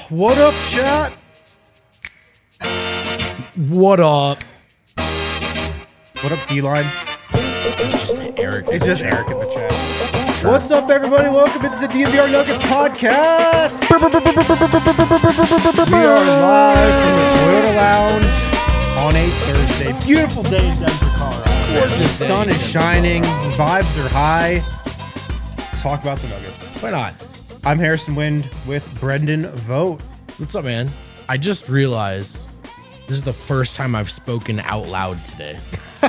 What up, chat? What up? What up, D-Line? Eric. It's just Eric in the chat. Sure. What's up, everybody? Welcome into the DNVR Nuggets podcast. We are live from the Toyota Lounge on a Thursday. Beautiful day in Denver, Colorado. The sun is shining. Vibes are high. Let's talk about the Nuggets. Why not? I'm Harrison Wind with Brendan Vogt. What's up, man? I just realized this is the first time I've spoken out loud today.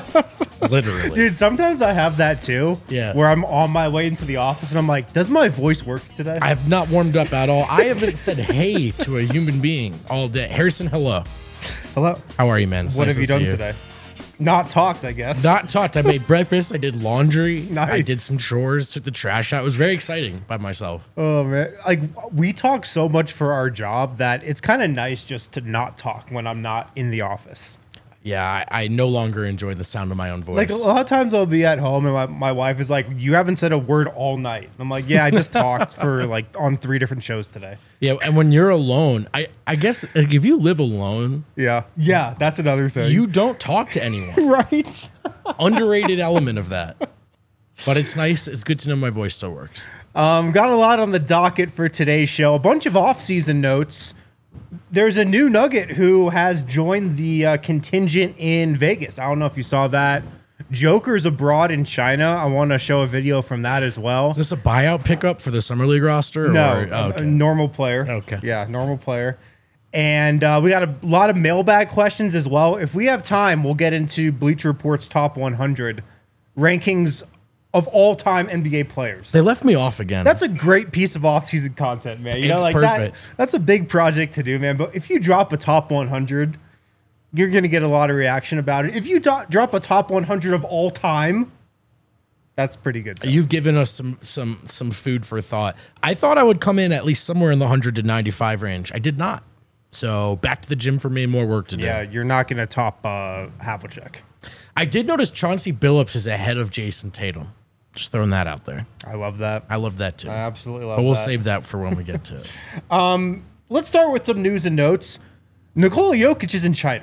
Literally. Dude, sometimes I have that too. Yeah. Where I'm on my way into the office and I'm like, does my voice work today? I have not warmed up at all. I haven't said hey to a human being all day. Harrison, hello. Hello. How are you, man? What have you done today? Not talked, I guess. Not talked. I made breakfast. I did laundry. Nice. I did some chores, took the trash out. It was very exciting by myself. Oh, man. Like, we talk so much for our job that it's kind of nice just to not talk when I'm not in the office. Yeah, I no longer enjoy the sound of my own voice. Like, a lot of times I'll be at home and my wife is like, you haven't said a word all night. And I'm like, yeah, I just talked for like on 3 different shows today. Yeah, and when you're alone, I guess like, if you live alone, Yeah, that's another thing. you don't talk to anyone. Right? Underrated element of that. But it's nice. It's good to know my voice still works. Got a lot on the docket for today's show. A bunch of off-season notes. There's a new Nugget who has joined the contingent in Vegas. I don't know if you saw that. Joker's abroad in China. I want to show a video from that as well. Is this a buyout pickup for the Summer League roster? No, Or, oh, a normal player. Okay. Yeah, normal player. And we got a lot of mailbag questions as well. If we have time, we'll get into Bleacher Report's top 100 rankings of all-time NBA players. They left me off again. That's a great piece of off-season content, man. You know, It's like perfect. that's a big project to do, man. But if you drop a top 100, you're going to get a lot of reaction about it. If you drop a top 100 of all time, that's pretty good. You've given us some food for thought. I thought I would come in at least somewhere in the 100 to 95 range. I did not. So back to the gym for me. More work to do. Yeah, you're not going to top Havlicek. I did notice Chauncey Billups is ahead of Jason Tatum. Just throwing that out there. I love that. I love that too. I absolutely love But we'll that. save that for when we get to it. Let's start with some news and notes. Nikola Jokic is in China.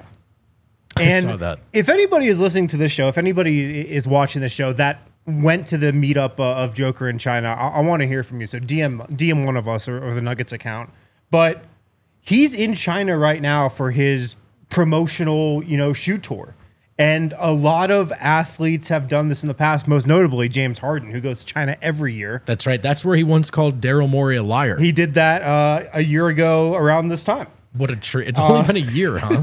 And saw that. if anybody is listening to this show, if anybody is watching the show that went to the meetup of Joker in China, I want to hear from you. So DM one of us or the Nuggets account. But he's in China right now for his promotional, shoot tour. And a lot of athletes have done this in the past, most notably James Harden, who goes to China every year. That's right. That's where he once called Daryl Morey a liar. He did that a year ago around this time. What a treat. It's only been a year, huh?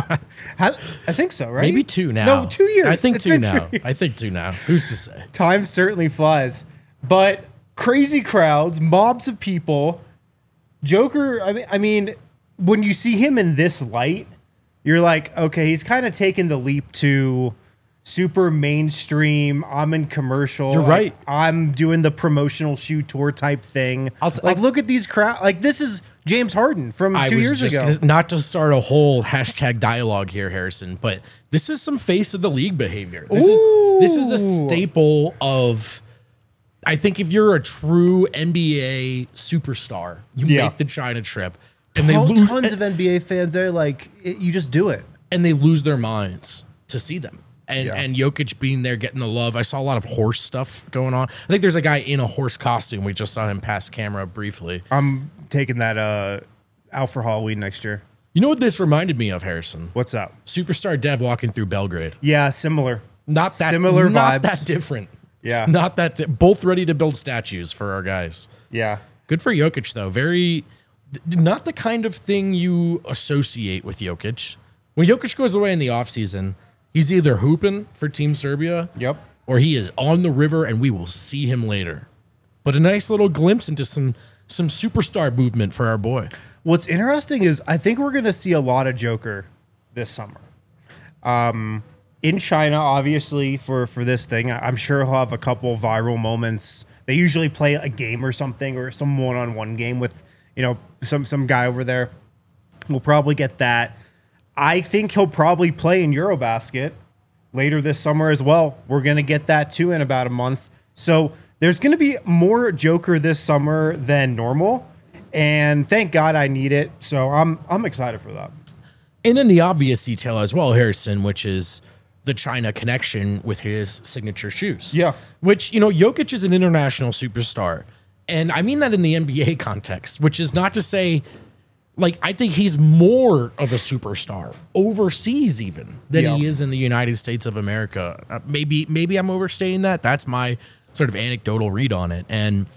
I think so, right? Maybe 2 now. No, 2 years. I think It's 2 been now. 2 years. I think 2 now. Who's to say? Time certainly flies. But crazy crowds, mobs of people. Joker, I mean, when you see him in this light, you're like, okay, he's kind of taken the leap to super mainstream. I'm in commercial. You're right. I'm doing the promotional shoot tour type thing. Look at these crowd. Like, this is James Harden from 2 years ago. Not to start a whole hashtag dialogue here, Harrison, but this is some face of the league behavior. This is a staple of. I think if you're a true NBA superstar, you make the China trip, and they lose tons of NBA fans there. Like, you just do it. and they lose their minds to see them. And Jokic being there, getting the love. I saw a lot of horse stuff going on. I think there's a guy in a horse costume. We just saw him pass camera briefly. I'm taking that out for Halloween next year. You know what this reminded me of, Harrison? What's up? Superstar Dev walking through Belgrade. Yeah, similar. Not that Similar not vibes. that different. Yeah. Not that both ready to build statues for our guys. Yeah. Good for Jokic though. Very not the kind of thing you associate with Jokic. When Jokic goes away in the offseason, he's either hooping for Team Serbia, Yep. or he is on the river and we will see him later. But a nice little glimpse into some superstar movement for our boy. What's interesting is I think we're going to see a lot of Joker this summer. In China, obviously, for this thing, I'm sure he'll have a couple viral moments. They usually play a game or something, or some one-on-one game with, some guy over there. We'll probably get that. I think he'll probably play in Eurobasket later this summer as well. We're going to get that too in about a month. So there's going to be more Joker this summer than normal. And thank God I need it. So I'm excited for that. And then the obvious detail as well, Harrison, which is the China connection with his signature shoes. Yeah. Which, Jokic is an international superstar. And I mean that in the NBA context, which is not to say, I think he's more of a superstar overseas even than he is in the United States of America. Maybe I'm overstating that. That's my sort of anecdotal read on it.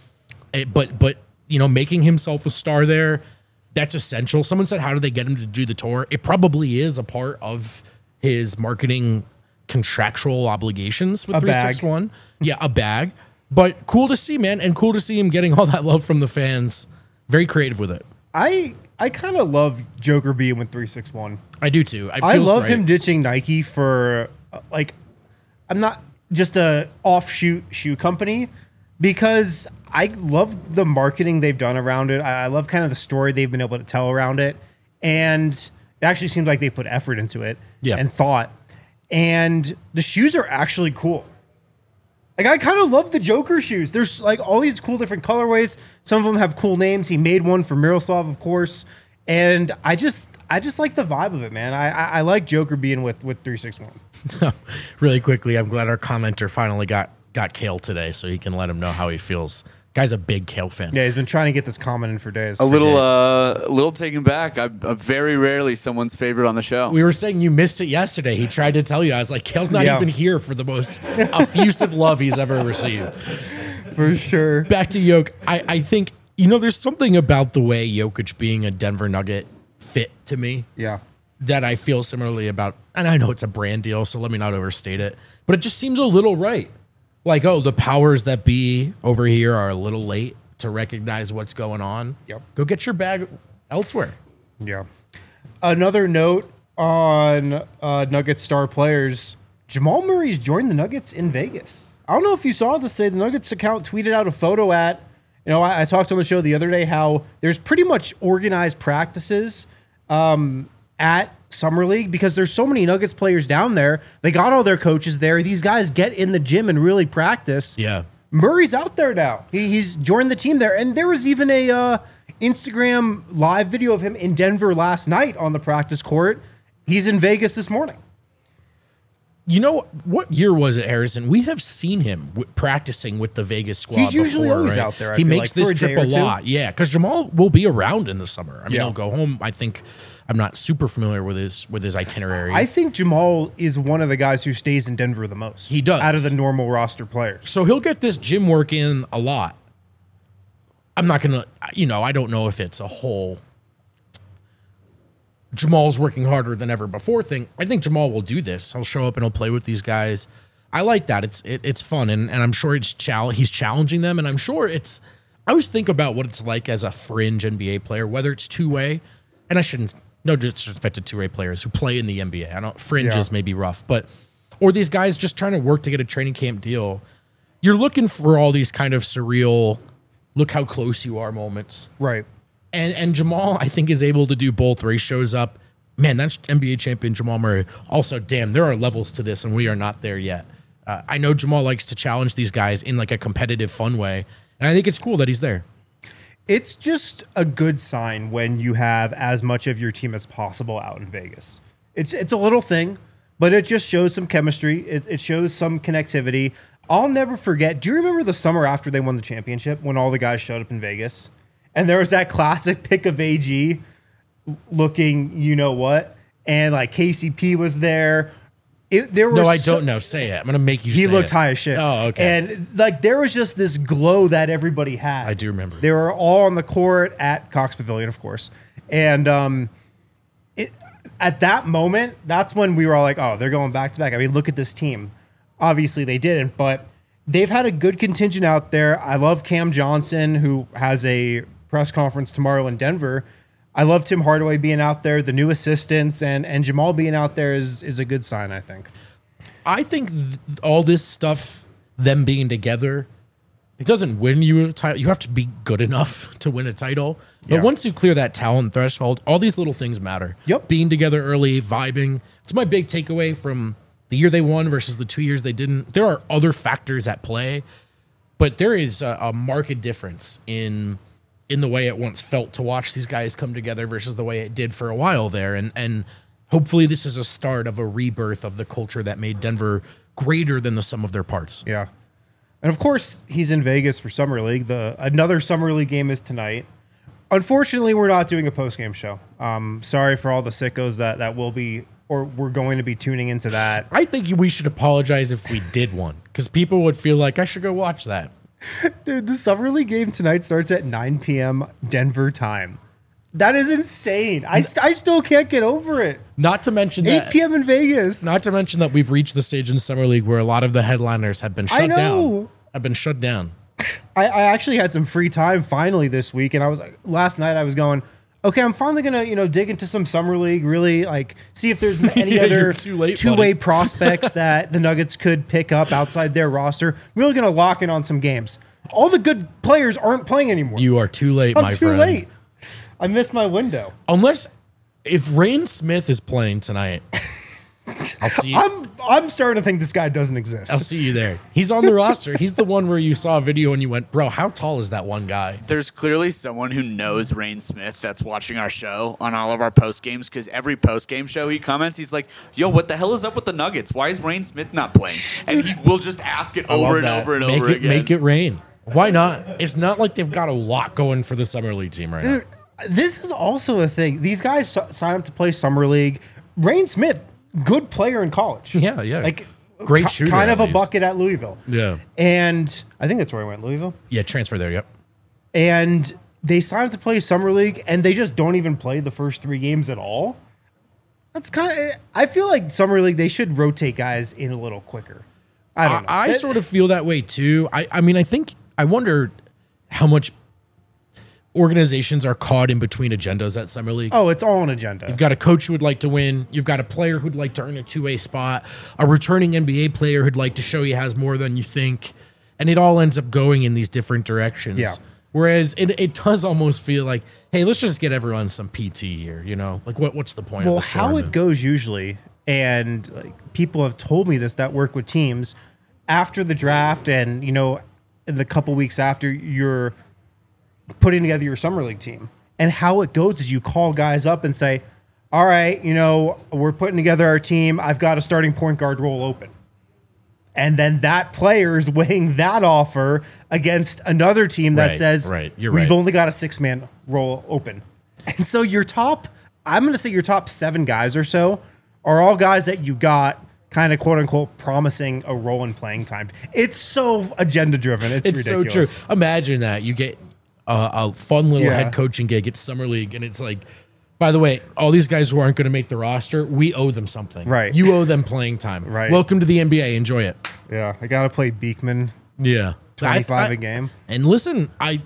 But making himself a star there, that's essential. Someone said, how do they get him to do the tour? It probably is a part of his marketing contractual obligations with 361. Yeah, a bag. But cool to see, man. And cool to see him getting all that love from the fans. Very creative with it. I kind of love Joker being with 361. I do too. I love him ditching Nike for I'm not just a offshoot shoe company, because I love the marketing they've done around it. I love kind of the story they've been able to tell around it. And it actually seems like they put effort into it and thought. And the shoes are actually cool. I kind of love the Joker shoes. There's all these cool different colorways. Some of them have cool names. He made one for Miroslav, of course. And I just like the vibe of it, man. I like Joker being with 361. Really quickly, I'm glad our commenter finally got Kale today, so he can let him know how he feels. Guy's a big Kale fan. Yeah, he's been trying to get this comment in for days. A little taken back. I'm very rarely someone's favorite on the show. We were saying you missed it yesterday. He tried to tell you. I was like, Kale's not even here for the most effusive love he's ever received. For sure. Back to Jokic. I think, there's something about the way Jokic being a Denver Nugget fit to me. Yeah. That I feel similarly about. And I know it's a brand deal, so let me not overstate it. But it just seems a little right. The powers that be over here are a little late to recognize what's going on. Yep. Go get your bag elsewhere. Yeah. Another note on Nuggets star players. Jamal Murray's joined the Nuggets in Vegas. I don't know if you saw this today. The Nuggets account tweeted out a photo at, I talked on the show the other day how there's pretty much organized practices at Summer League because there's so many Nuggets players down there. They got all their coaches there. These guys get in the gym and really practice. Yeah. Murray's out there now. He's joined the team there. And there was even a Instagram live video of him in Denver last night on the practice court. He's in Vegas this morning. What year was it, Harrison? We have seen him practicing with the Vegas squad. He's usually before, always right? out there. He makes this trip a lot. Yeah, because Jamal will be around in the summer. I mean, he'll go home. I think I'm not super familiar with his itinerary. I think Jamal is one of the guys who stays in Denver the most. He does. Out of the normal roster players. So he'll get this gym work in a lot. I'm not going to, I don't know if it's a whole Jamal's working harder than ever before thing. I think Jamal will do this. He'll show up and he'll play with these guys. I like that. It's fun. And I'm sure he's challenging them. And I'm sure I always think about what it's like as a fringe NBA player, whether it's two-way, and I shouldn't, no disrespect to two-way players who play in the NBA. Fringes may be rough, or these guys just trying to work to get a training camp deal. You're looking for all these kind of surreal, look how close you are moments. Right. And Jamal, I think, is able to do both where he shows up. Man, that's NBA champion Jamal Murray. Also, damn, there are levels to this, and we are not there yet. I know Jamal likes to challenge these guys in a competitive, fun way, and I think it's cool that he's there. It's just a good sign when you have as much of your team as possible out in Vegas. It's a little thing, but it just shows some chemistry. It shows some connectivity. I'll never forget. Do you remember the summer after they won the championship when all the guys showed up in Vegas? And there was that classic pic of AG looking, what? And KCP was there. I don't know. Say it. I'm going to make you say it. He looked high as shit. Oh, okay. And there was just this glow that everybody had. I do remember. They were all on the court at Cox Pavilion, of course. And at that moment, that's when we were all like, oh, they're going back to back. I mean, look at this team. Obviously, they didn't, but they've had a good contingent out there. I love Cam Johnson, who has a press conference tomorrow in Denver. I love Tim Hardaway being out there, the new assistants, and Jamal being out there is a good sign, I think. I think all this stuff, them being together, it doesn't win you a title. You have to be good enough to win a title. But once you clear that talent threshold, all these little things matter. Yep. Being together early, vibing. It's my big takeaway from the year they won versus the 2 years they didn't. There are other factors at play, but there is a marked difference in in the way it once felt to watch these guys come together versus the way it did for a while there. And hopefully this is a start of a rebirth of the culture that made Denver greater than the sum of their parts. Yeah. And of course, he's in Vegas for Summer League. Another Summer League game is tonight. Unfortunately, we're not doing a post-game show. Sorry for all the sickos that will be, or we're going to be tuning into that. I think we should apologize if we did one, because people would feel like I should go watch that. Dude, the Summer League game tonight starts at 9 p.m. Denver time. That is insane. I still can't get over it. Not to mention 8 that p.m. in Vegas. Not to mention that we've reached the stage in Summer League where a lot of the headliners have been shut down. Have been shut down. I actually had some free time finally this week, and last night I was going, okay, I'm finally gonna dig into some Summer League, really see if there's any other two-way prospects that the Nuggets could pick up outside their roster. I'm really gonna lock in on some games. All the good players aren't playing anymore. You are too late, my friend. I'm too late. I missed my window. Unless if Rain Smith is playing tonight, I'll see you. I'm starting to think this guy doesn't exist. I'll see you there. He's on the roster. He's the one where you saw a video and you went, bro, how tall is that one guy? There's clearly someone who knows Rain Smith that's watching our show on all of our post games, because every post game show he comments, he's like, yo, what the hell is up with the Nuggets? Why is Rain Smith not playing? And he will just ask it over and over and over again. Make it rain. Why not? It's not like they've got a lot going for the Summer League team right now. This is also a thing. These guys sign up to play Summer League. Rain Smith, good player in college. Yeah. Great shooter. Kind of a bucket at Louisville. Yeah. And I think that's where I went, Louisville. Yeah, transfer there, yep. And they sign up to play Summer League, and they just don't even play the first 3 games at all. That's kind of, I feel like Summer League, they should rotate guys in a little quicker. I don't know. I sort of feel that way too. I wonder how much organizations are caught in between agendas at Summer League. Oh, it's all an agenda. You've got a coach who would like to win. You've got a player who'd like to earn a two-way spot. A returning NBA player who'd like to show he has more than you think. And it all ends up going in these different directions. Yeah. Whereas it does almost feel like, hey, let's just get everyone some PT here, Like what's the point of this how it goes usually, and people have told me this that work with teams after the draft, and in the couple weeks after you're putting together your Summer League team. And how it goes is you call guys up and say, all right, we're putting together our team. I've got a starting point guard role open. And then that player is weighing that offer against another team that says, we've only got a 6-man role open. And so I'm going to say your top 7 guys or so are all guys that you got kind of quote unquote promising a role in playing time. It's so agenda driven. It's ridiculous. So true. Imagine that you get a fun little head coaching gig at Summer League, and it's like, by the way, all these guys who aren't going to make the roster, we owe them something. Right. You owe them playing time. Right. Welcome to the NBA. Enjoy it. Yeah. I got to play Beekman. Yeah. 25 a game. And listen,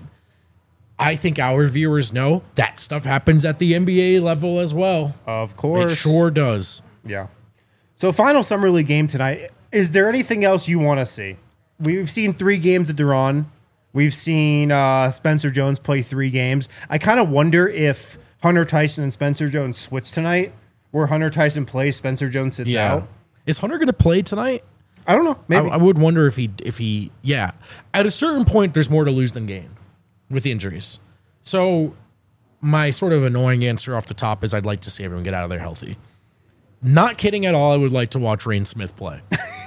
I think our viewers know that stuff happens at the NBA level as well. Of course. It sure does. Yeah. So final Summer League game tonight. Is there anything else you want to see? We've seen 3 games at Duran. We've seen Spencer Jones play 3 games. I kind of wonder if Hunter Tyson and Spencer Jones switch tonight, where Hunter Tyson plays, Spencer Jones sits out. Is Hunter going to play tonight? I don't know. Maybe. I would wonder if he. At a certain point, there's more to lose than gain with the injuries. So my sort of annoying answer off the top is I'd like to see everyone get out of there healthy. Not kidding at all. I would like to watch Rain Smith play.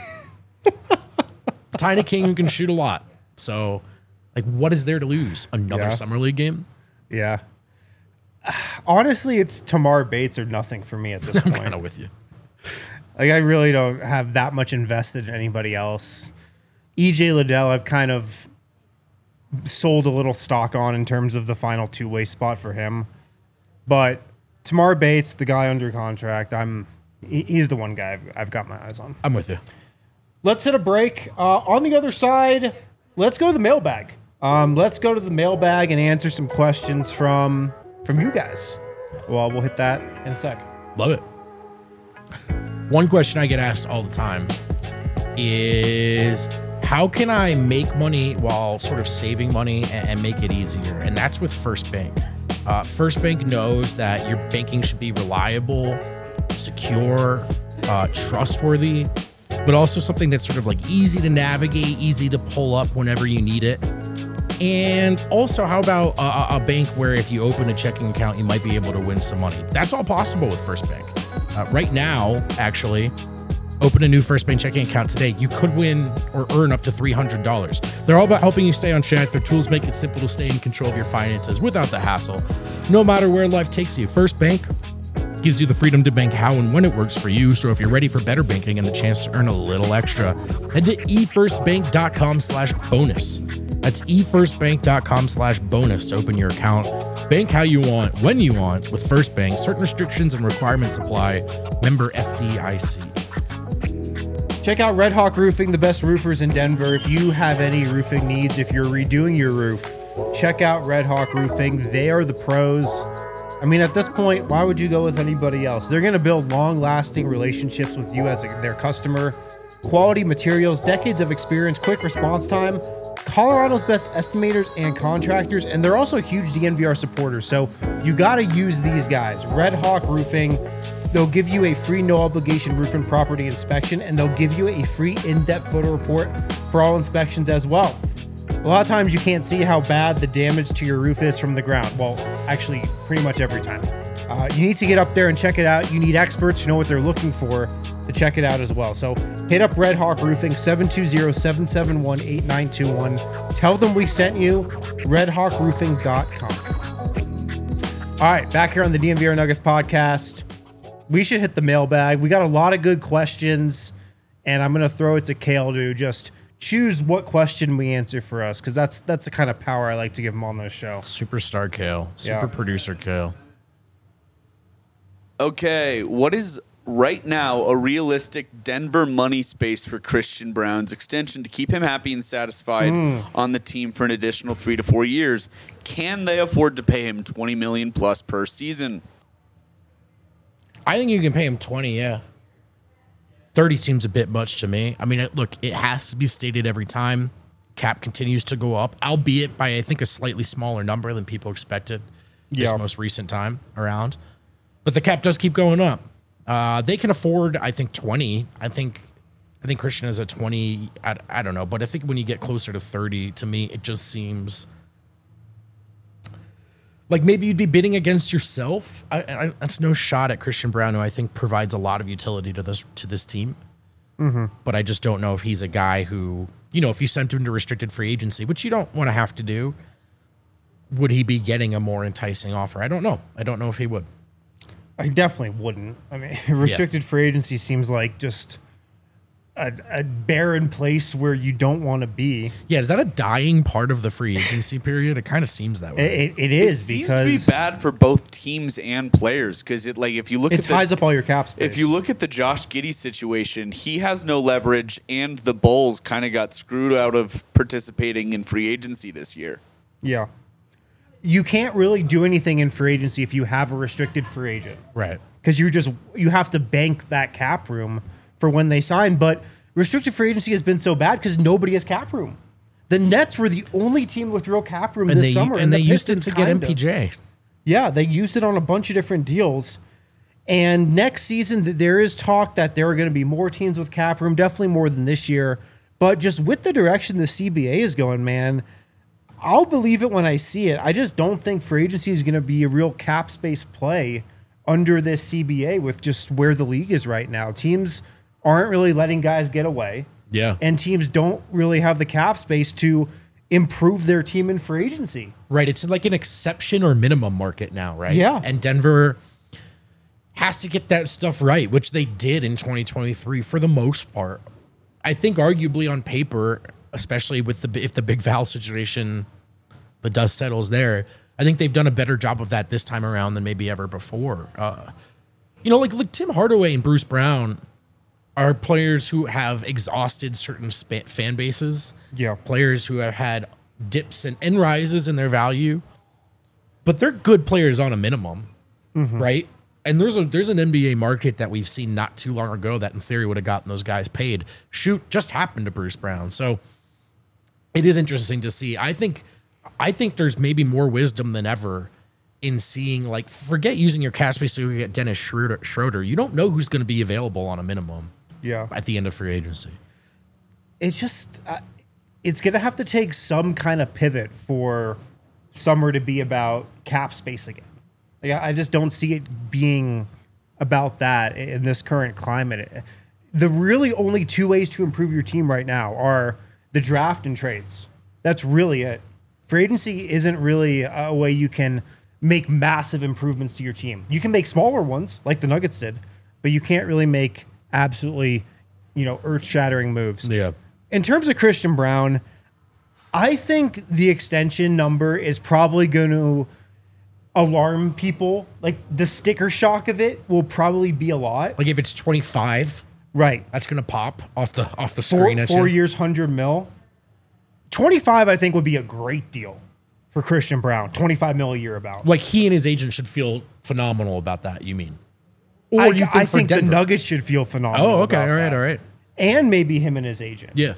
Tiny King who can shoot a lot. So, what is there to lose? Another Summer League game? Yeah. Honestly, it's Tamar Bates or nothing for me at this point. I'm kind of with you. I really don't have that much invested in anybody else. EJ Liddell, I've kind of sold a little stock on in terms of the final 2-way spot for him. But Tamar Bates, the guy under contract, he's the one guy I've got my eyes on. I'm with you. Let's hit a break. On the other side, let's go to the mailbag. Let's go to the mailbag and answer some questions from you guys. Well, we'll hit that in a sec. Love it. One question I get asked all the time is, how can I make money while sort of saving money and make it easier? And that's with First Bank. First Bank knows that your banking should be reliable, secure, trustworthy, but also something that's sort of easy to navigate, easy to pull up whenever you need it. And also, how about a bank where if you open a checking account, you might be able to win some money? That's all possible with First Bank. Right now, actually, open a new First Bank checking account today. You could win or earn up to $300. They're all about helping you stay on track. Their tools make it simple to stay in control of your finances without the hassle, no matter where life takes you. First Bank gives you the freedom to bank how and when it works for you. So if you're ready for better banking and the chance to earn a little extra, head to efirstbank.com/bonus. That's efirstbank.com/bonus to open your account. Bank how you want, when you want with First Bank. Certain restrictions and requirements apply. Member FDIC. Check out Red Hawk Roofing, the best roofers in Denver. If you have any roofing needs, if you're redoing your roof, check out Red Hawk Roofing. They are the pros. I mean, at this point, why would you go with anybody else? They're going to build long-lasting relationships with you as their customer. Quality materials, decades of experience, quick response time, Colorado's best estimators and contractors, and they're also huge DNVR supporters, so you got to use these guys. Red Hawk Roofing, they'll give you a free no-obligation roof and property inspection, and they'll give you a free in-depth photo report for all inspections as well. A lot of times you can't see how bad the damage to your roof is from the ground. Well, actually, pretty much every time. You need to get up there and check it out. You need experts who know what they're looking for to check it out as well. So hit up Red Hawk Roofing, 720-771-8921. Tell them we sent you, redhawkroofing.com. All right, back here on the DNVR Nuggets podcast. We should hit the mailbag. We got a lot of good questions, and I'm going to throw it to Kale to just choose what question we answer for us, because that's the kind of power I like to give him on this show. Superstar Kale. Super producer Kale. Okay, what is right now a realistic Denver money space for Christian Braun's extension to keep him happy and satisfied on the team for an additional 3 to 4 years? Can they afford to pay him $20 million plus per season? I think you can pay him 20, yeah. 30 seems a bit much to me. I mean, look, it has to be stated every time. Cap continues to go up, albeit by, I think, a slightly smaller number than people expected this most recent time around. But the cap does keep going up. They can afford, I think, 20. I think Christian is at 20. I don't know. But I think when you get closer to 30, to me, it just seems like maybe you'd be bidding against yourself. That's no shot at Christian Braun, who I think provides a lot of utility to this team. Mm-hmm. But I just don't know if he's a guy who, if you sent him to restricted free agency, which you don't want to have to do, would he be getting a more enticing offer? I don't know. I don't know if he would. I definitely wouldn't. I mean, restricted free agency seems like just a barren place where you don't want to be. Yeah, is that a dying part of the free agency period? It kind of seems that way. It is, it because seems to be bad for both teams and players, because if you look it ties up all your cap space. If you look at the Josh Giddey situation, he has no leverage, and the Bulls kind of got screwed out of participating in free agency this year. Yeah. You can't really do anything in free agency if you have a restricted free agent. Right. Because you have to bank that cap room for when they sign. But restricted free agency has been so bad because nobody has cap room. The Nets were the only team with real cap room this summer. And they used it to get MPJ. Yeah, they used it on a bunch of different deals. And next season, there is talk that there are going to be more teams with cap room, definitely more than this year. But just with the direction the CBA is going, man, I'll believe it when I see it. I just don't think free agency is going to be a real cap space play under this CBA with just where the league is right now. Teams aren't really letting guys get away. Yeah. And teams don't really have the cap space to improve their team in free agency. Right. It's like an exception or minimum market now, right? Yeah. And Denver has to get that stuff right, which they did in 2023 for the most part. I think arguably on paper, especially with if the Big Val situation, the dust settles there, I think they've done a better job of that this time around than maybe ever before. Like Tim Hardaway and Bruce Brown are players who have exhausted certain fan bases. Yeah. Players who have had dips and rises in their value, but they're good players on a minimum, right? And there's an NBA market that we've seen not too long ago that in theory would have gotten those guys paid. Just happened to Bruce Brown. So it is interesting to see. I think there's maybe more wisdom than ever in seeing, like, forget using your cap space to get Dennis Schroeder. You don't know who's going to be available on a minimum. Yeah. At the end of free agency. It's just it's going to have to take some kind of pivot for summer to be about cap space again. Like, I just don't see it being about that in this current climate. The really only two ways to improve your team right now are the draft and trades. That's really it. Free agency isn't really a way you can make massive improvements to your team. You can make smaller ones like the Nuggets did, but you can't really make absolutely, earth-shattering moves. Yeah. In terms of Christian Brown, I think the extension number is probably going to alarm people. Like, the sticker shock of it will probably be a lot. Like if it's 25, Right. that's gonna pop off the screen. Four years, 100 mil. 25, I think, would be a great deal for Christian Brown. 25 mil a year about. Like he and his agent should feel phenomenal about that. You mean? Or I for think the Denver? Nuggets should feel phenomenal. Oh, okay. about All right. that. All right. And maybe him and his agent. Yeah.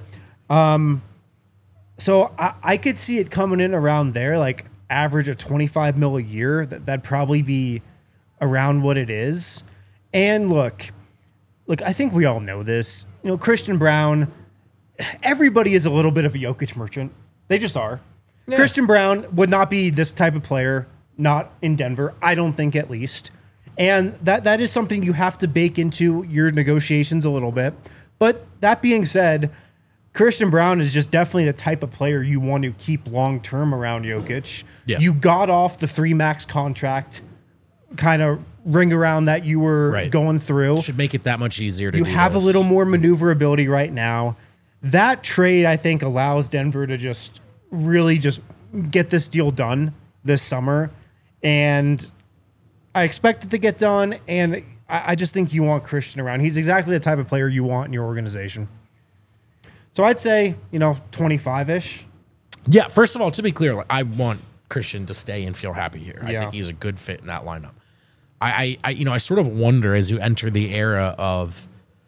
So I could see it coming in around there, like average of 25 mil a year. That'd probably be around what it is. And look, I think we all know this. Christian Brown, everybody is a little bit of a Jokic merchant. They just are. Yeah. Christian Brown would not be this type of player, not in Denver, I don't think, at least. And that is something you have to bake into your negotiations a little bit. But that being said, Christian Brown is just definitely the type of player you want to keep long-term around Jokic. Yeah. You got off the 3 max contract kind of ring around that you were Right. going through. Should make it that much easier to You do have this. a little more maneuverability right now. That trade, I think, allows Denver to just really just get this deal done this summer. And I expect it to get done. And I just think you want Christian around. He's exactly the type of player you want in your organization. So I'd say, 25-ish. Yeah. First of all, to be clear, like, I want Christian to stay and feel happy here. I Yeah. think he's a good fit in that lineup. I sort of wonder as you enter the era of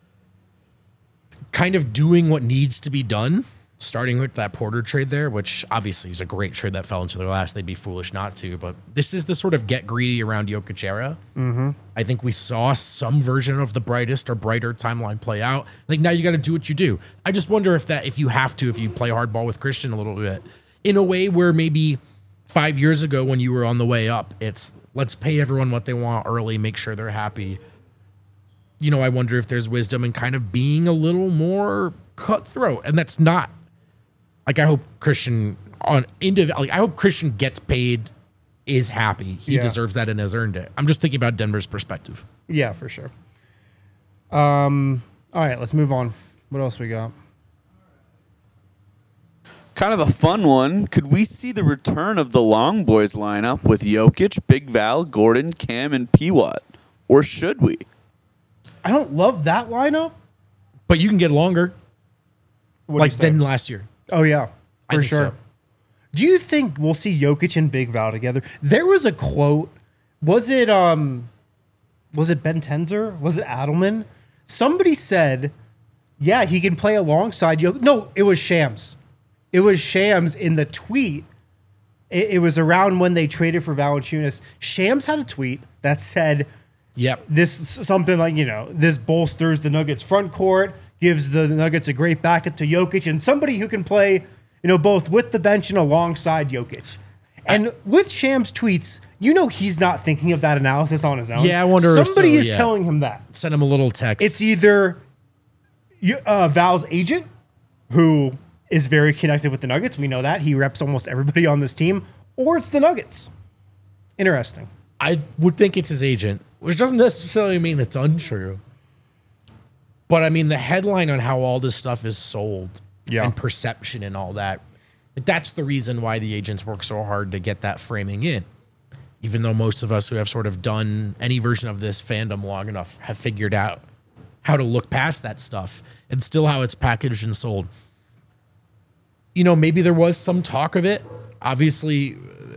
kind of doing what needs to be done, starting with that Porter trade there, which obviously is a great trade that fell into their laps. They'd be foolish not to, but this is the sort of get greedy around Jokic era. Mm-hmm. I think we saw some version of the brightest or brighter timeline play out. Like now you got to do what you do. I just wonder if you play hardball with Christian a little bit in a way where maybe 5 years ago when you were on the way up, it's let's pay everyone what they want early, make sure they're happy. I wonder if there's wisdom in kind of being a little more cutthroat. And that's not like, I hope Christian I hope Christian gets paid, is happy. He Yeah. deserves that and has earned it. I'm just thinking about Denver's perspective. Yeah, for sure. All right, let's move on. What else we got? Kind of a fun one. Could we see the return of the Long Boys lineup with Jokic, Big Val, Gordon, Cam, and P-Watt? Or should we? I don't love that lineup. But you can get longer, What do like you say? than last year. Oh, yeah, I for think sure. so. Do you think we'll see Jokic and Big Val together? There was a quote. Was it Ben Tenzer? Was it Adelman? Somebody said, yeah, he can play alongside Jokic. No, it was Shams. It was Shams in the tweet. It was around when they traded for Valanciunas. Shams had a tweet that said, Yep. this something like, this bolsters the Nuggets front court, gives the Nuggets a great backup to Jokic, and somebody who can play, both with the bench and alongside Jokic. And with Shams' tweets, he's not thinking of that analysis on his own. Yeah, I wonder if somebody so, is yeah. telling him that. Send him a little text. It's either Val's agent, who is very connected with the Nuggets. We know that. He reps almost everybody on this team. Or it's the Nuggets. Interesting. I would think it's his agent, which doesn't necessarily mean it's untrue. But I mean, the headline on how all this stuff is sold Yeah. and perception and all that, that's the reason why the agents work so hard to get that framing in. Even though most of us who have sort of done any version of this fandom long enough have figured out how to look past that stuff and still how it's packaged and sold. Maybe there was some talk of it. Obviously,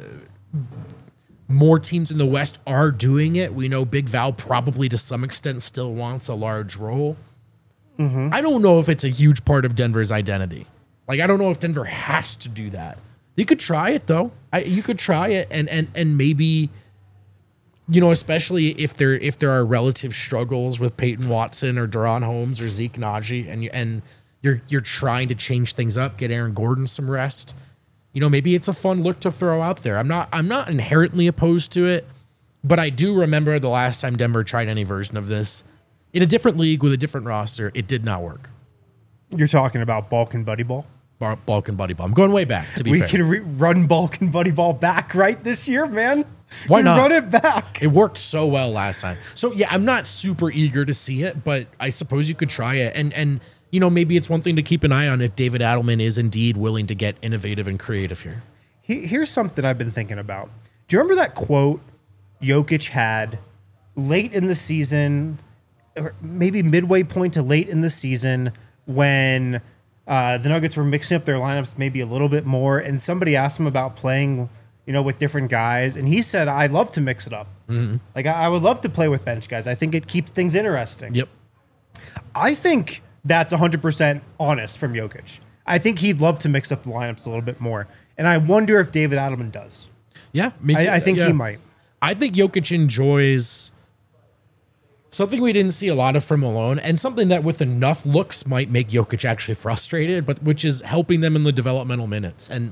more teams in the West are doing it. We know Big Val probably to some extent still wants a large role. Mm-hmm. I don't know if it's a huge part of Denver's identity. Like, I don't know if Denver has to do that. You could try it, though. You could try it and maybe, especially if there are relative struggles with Peyton Watson or Deron Holmes or Zeke Naji, and You're trying to change things up, get Aaron Gordon some rest. Maybe it's a fun look to throw out there. I'm not inherently opposed to it, but I do remember the last time Denver tried any version of this in a different league with a different roster. It did not work. You're talking about Balkan Buddy Ball? Balkan Buddy Ball. I'm going way back, to be fair. We can run Balkan Buddy Ball back right this year, man. Why not? Run it back. It worked so well last time. So, yeah, I'm not super eager to see it, but I suppose you could try it. And maybe it's one thing to keep an eye on if David Adelman is indeed willing to get innovative and creative here. Here's something I've been thinking about. Do you remember that quote Jokic had late in the season, or maybe midway point to late in the season, when the Nuggets were mixing up their lineups maybe a little bit more, and somebody asked him about playing, with different guys, and he said, "I love to mix it up. Mm-hmm. Like I would love to play with bench guys. I think it keeps things interesting." Yep. I think that's 100% honest from Jokic. I think he'd love to mix up the lineups a little bit more, and I wonder if David Adelman does. Yeah, me too. I think he might. I think Jokic enjoys something we didn't see a lot of from Malone, and something that with enough looks might make Jokic actually frustrated, but which is helping them in the developmental minutes. And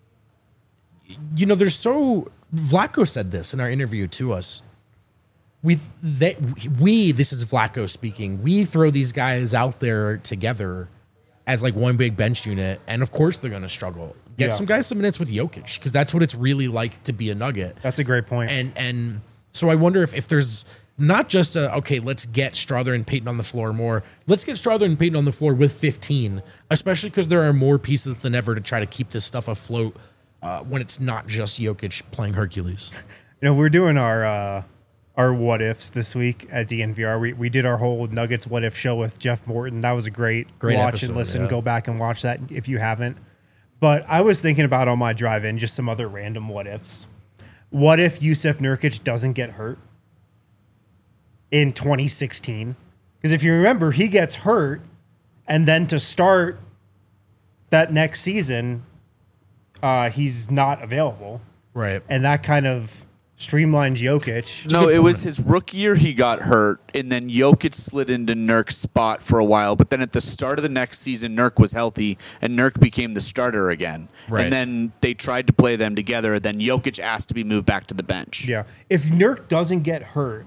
Vlatko said this in our interview to us. This is Vlatko speaking. We throw these guys out there together as like one big bench unit, and of course they're going to struggle. Get some guys some minutes with Jokic, because that's what it's really like to be a Nugget. That's a great point. And so I wonder if there's not just let's get Strother and Payton on the floor more. Let's get Strother and Payton on the floor with 15, especially because there are more pieces than ever to try to keep this stuff afloat when it's not just Jokic playing Hercules. We're doing our what ifs this week at DNVR. We did our whole Nuggets what if show with Jeff Morton. That was a great watch episode, and listen. Yeah. Go back and watch that if you haven't. But I was thinking about on my drive in just some other random what ifs. What if Yusuf Nurkic doesn't get hurt in 2016? Because if you remember, he gets hurt, and then to start that next season, he's not available. Right. And that kind of streamlined Jokic. No, it was his rookie year he got hurt, and then Jokic slid into Nurk's spot for a while. But then at the start of the next season, Nurk was healthy, and Nurk became the starter again. Right. And then they tried to play them together. Then Jokic asked to be moved back to the bench. Yeah. If Nurk doesn't get hurt,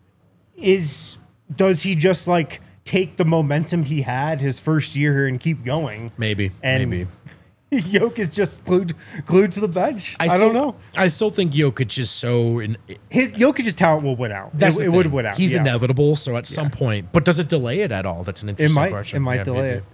does he just like take the momentum he had his first year here and keep going? Maybe. And Jokic is just glued to the bench. I don't know. I still think Jokic is so... Jokic's talent will win out. It would win out. He's inevitable, so at some point... But does it delay it at all? That's an interesting question. It might delay it.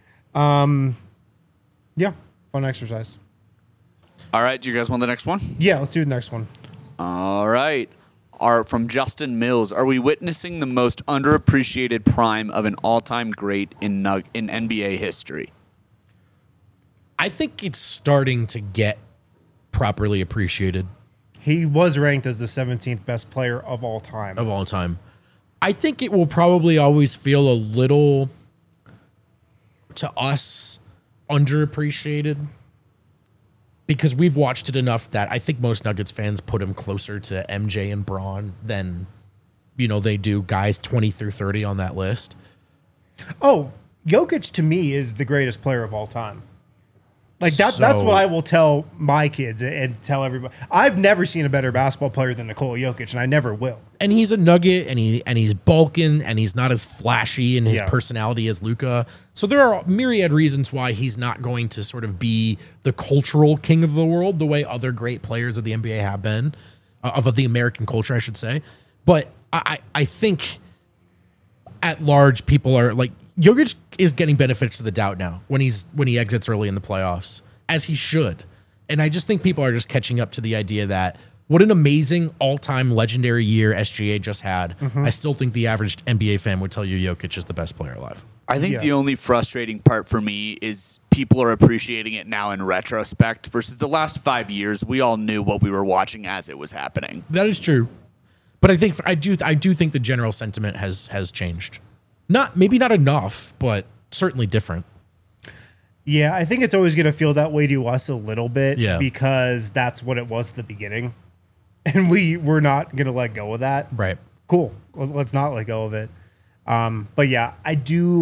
Yeah, fun exercise. All right, do you guys want the next one? Yeah, let's do the next one. All right. From Justin Mills, are we witnessing the most underappreciated prime of an all-time great in NBA history? I think it's starting to get properly appreciated. He was ranked as the 17th best player of all time. I think it will probably always feel a little, to us, underappreciated, because we've watched it enough that I think most Nuggets fans put him closer to MJ and Braun than, they do guys 20 through 30 on that list. Oh, Jokic to me is the greatest player of all time. Like that's what I will tell my kids and tell everybody. I've never seen a better basketball player than Nikola Jokic, and I never will. And he's a Nugget, and he's bulking, and he's not as flashy in his personality as Luka. So there are myriad reasons why he's not going to sort of be the cultural king of the world the way other great players of the NBA have been, of the American culture, I should say. But I think at large, people are like, Jokic is getting benefits of the doubt now when he exits early in the playoffs, as he should. And I just think people are just catching up to the idea that what an amazing all-time legendary year SGA just had. Mm-hmm. I still think the average NBA fan would tell you Jokic is the best player alive. I think the only frustrating part for me is people are appreciating it now in retrospect versus the last 5 years. We all knew what we were watching as it was happening. That is true. But I do think the general sentiment has changed. Maybe not enough, but certainly different. Yeah, I think it's always going to feel that way to us a little bit because that's what it was at the beginning. And we're not going to let go of that. Right. Cool. Let's not let go of it. But yeah, I do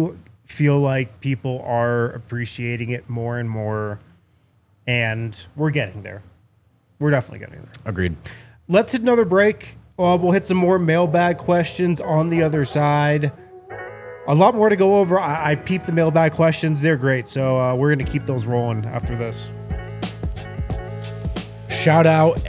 feel like people are appreciating it more and more, and we're getting there. We're definitely getting there. Agreed. Let's hit another break. We'll hit some more mailbag questions on the other side. A lot more to go over. I peeped the mailbag questions. They're great. So we're going to keep those rolling after this. Shout out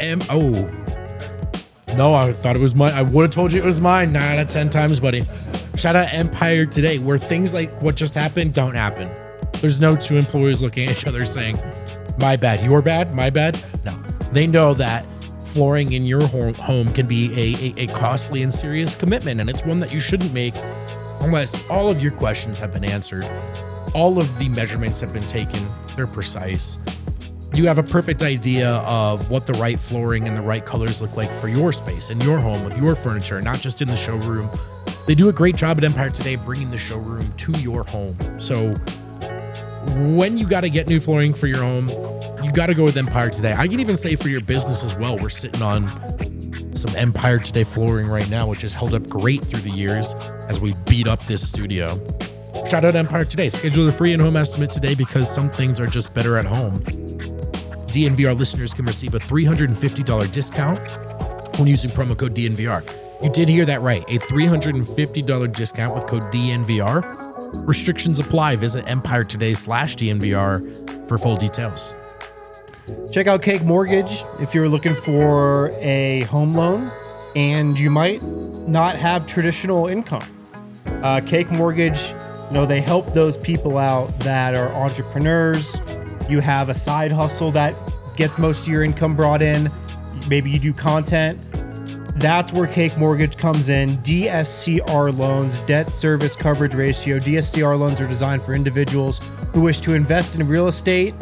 No, I thought it was mine. I would have told you it was mine 9 out of 10 times, buddy. Shout out Empire Today, where things like what just happened don't happen. There's no two employees looking at each other saying, my bad, your bad, my bad. No, they know that flooring in your home can be a costly and serious commitment, and it's one that you shouldn't make unless all of your questions have been answered. All of the measurements have been taken. They're precise. You have a perfect idea of what the right flooring and the right colors look like for your space in your home with your furniture, not just in the showroom. They do a great job at Empire Today bringing the showroom to your home. So when you got to get new flooring for your home, you got to go with Empire Today. I can even say for your business as well. We're sitting on some Empire Today flooring right now, which has held up great through the years as we beat up this studio. Shout out Empire Today. Schedule a free in-home estimate today because some things are just better at home. DNVR listeners can receive a $350 discount when using promo code DNVR. You did hear that right. A $350 discount with code DNVR. Restrictions apply. Visit EmpireToday/DNVR for full details. Check out Cake Mortgage if you're looking for a home loan and you might not have traditional income. Cake Mortgage, they help those people out that are entrepreneurs. You have a side hustle that gets most of your income brought in. Maybe you do content. That's where Cake Mortgage comes in. DSCR loans, debt service coverage ratio. DSCR loans are designed for individuals who wish to invest in real estate.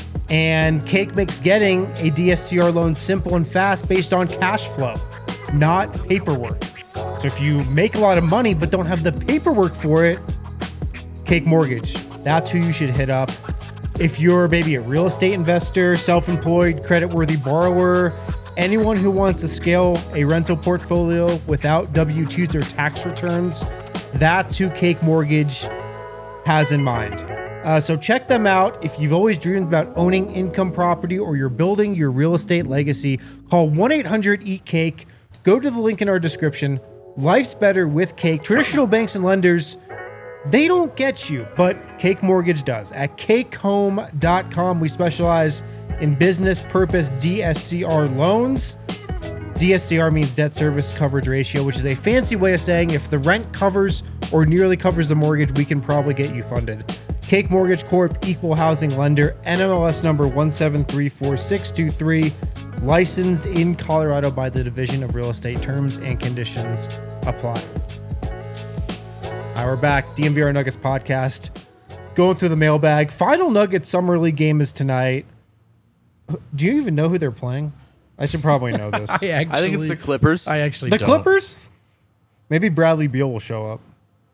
And Cake makes getting a DSCR loan simple and fast based on cash flow, not paperwork. So if you make a lot of money but don't have the paperwork for it, Cake Mortgage, that's who you should hit up. If you're maybe a real estate investor, self-employed, credit-worthy borrower, anyone who wants to scale a rental portfolio without W-2s or tax returns, that's who Cake Mortgage has in mind. So check them out. If you've always dreamed about owning income property or you're building your real estate legacy, call 1-800-EAT-CAKE. Go to the link in our description. Life's better with Cake. Traditional banks and lenders, they don't get you, but Cake Mortgage does. At cakehome.com, we specialize in business purpose DSCR loans. DSCR means debt service coverage ratio, which is a fancy way of saying if the rent covers or nearly covers the mortgage, we can probably get you funded. Cake Mortgage Corp, equal housing lender, NMLS number 1734623, licensed in Colorado by the Division of Real Estate. Terms and conditions apply. All right, we're back. DNVR Nuggets podcast. Going through the mailbag. Final Nuggets Summer League game is tonight. Do you even know who they're playing? I should probably know this. I think it's the Clippers. I actually The don't. Clippers? Maybe Bradley Beal will show up.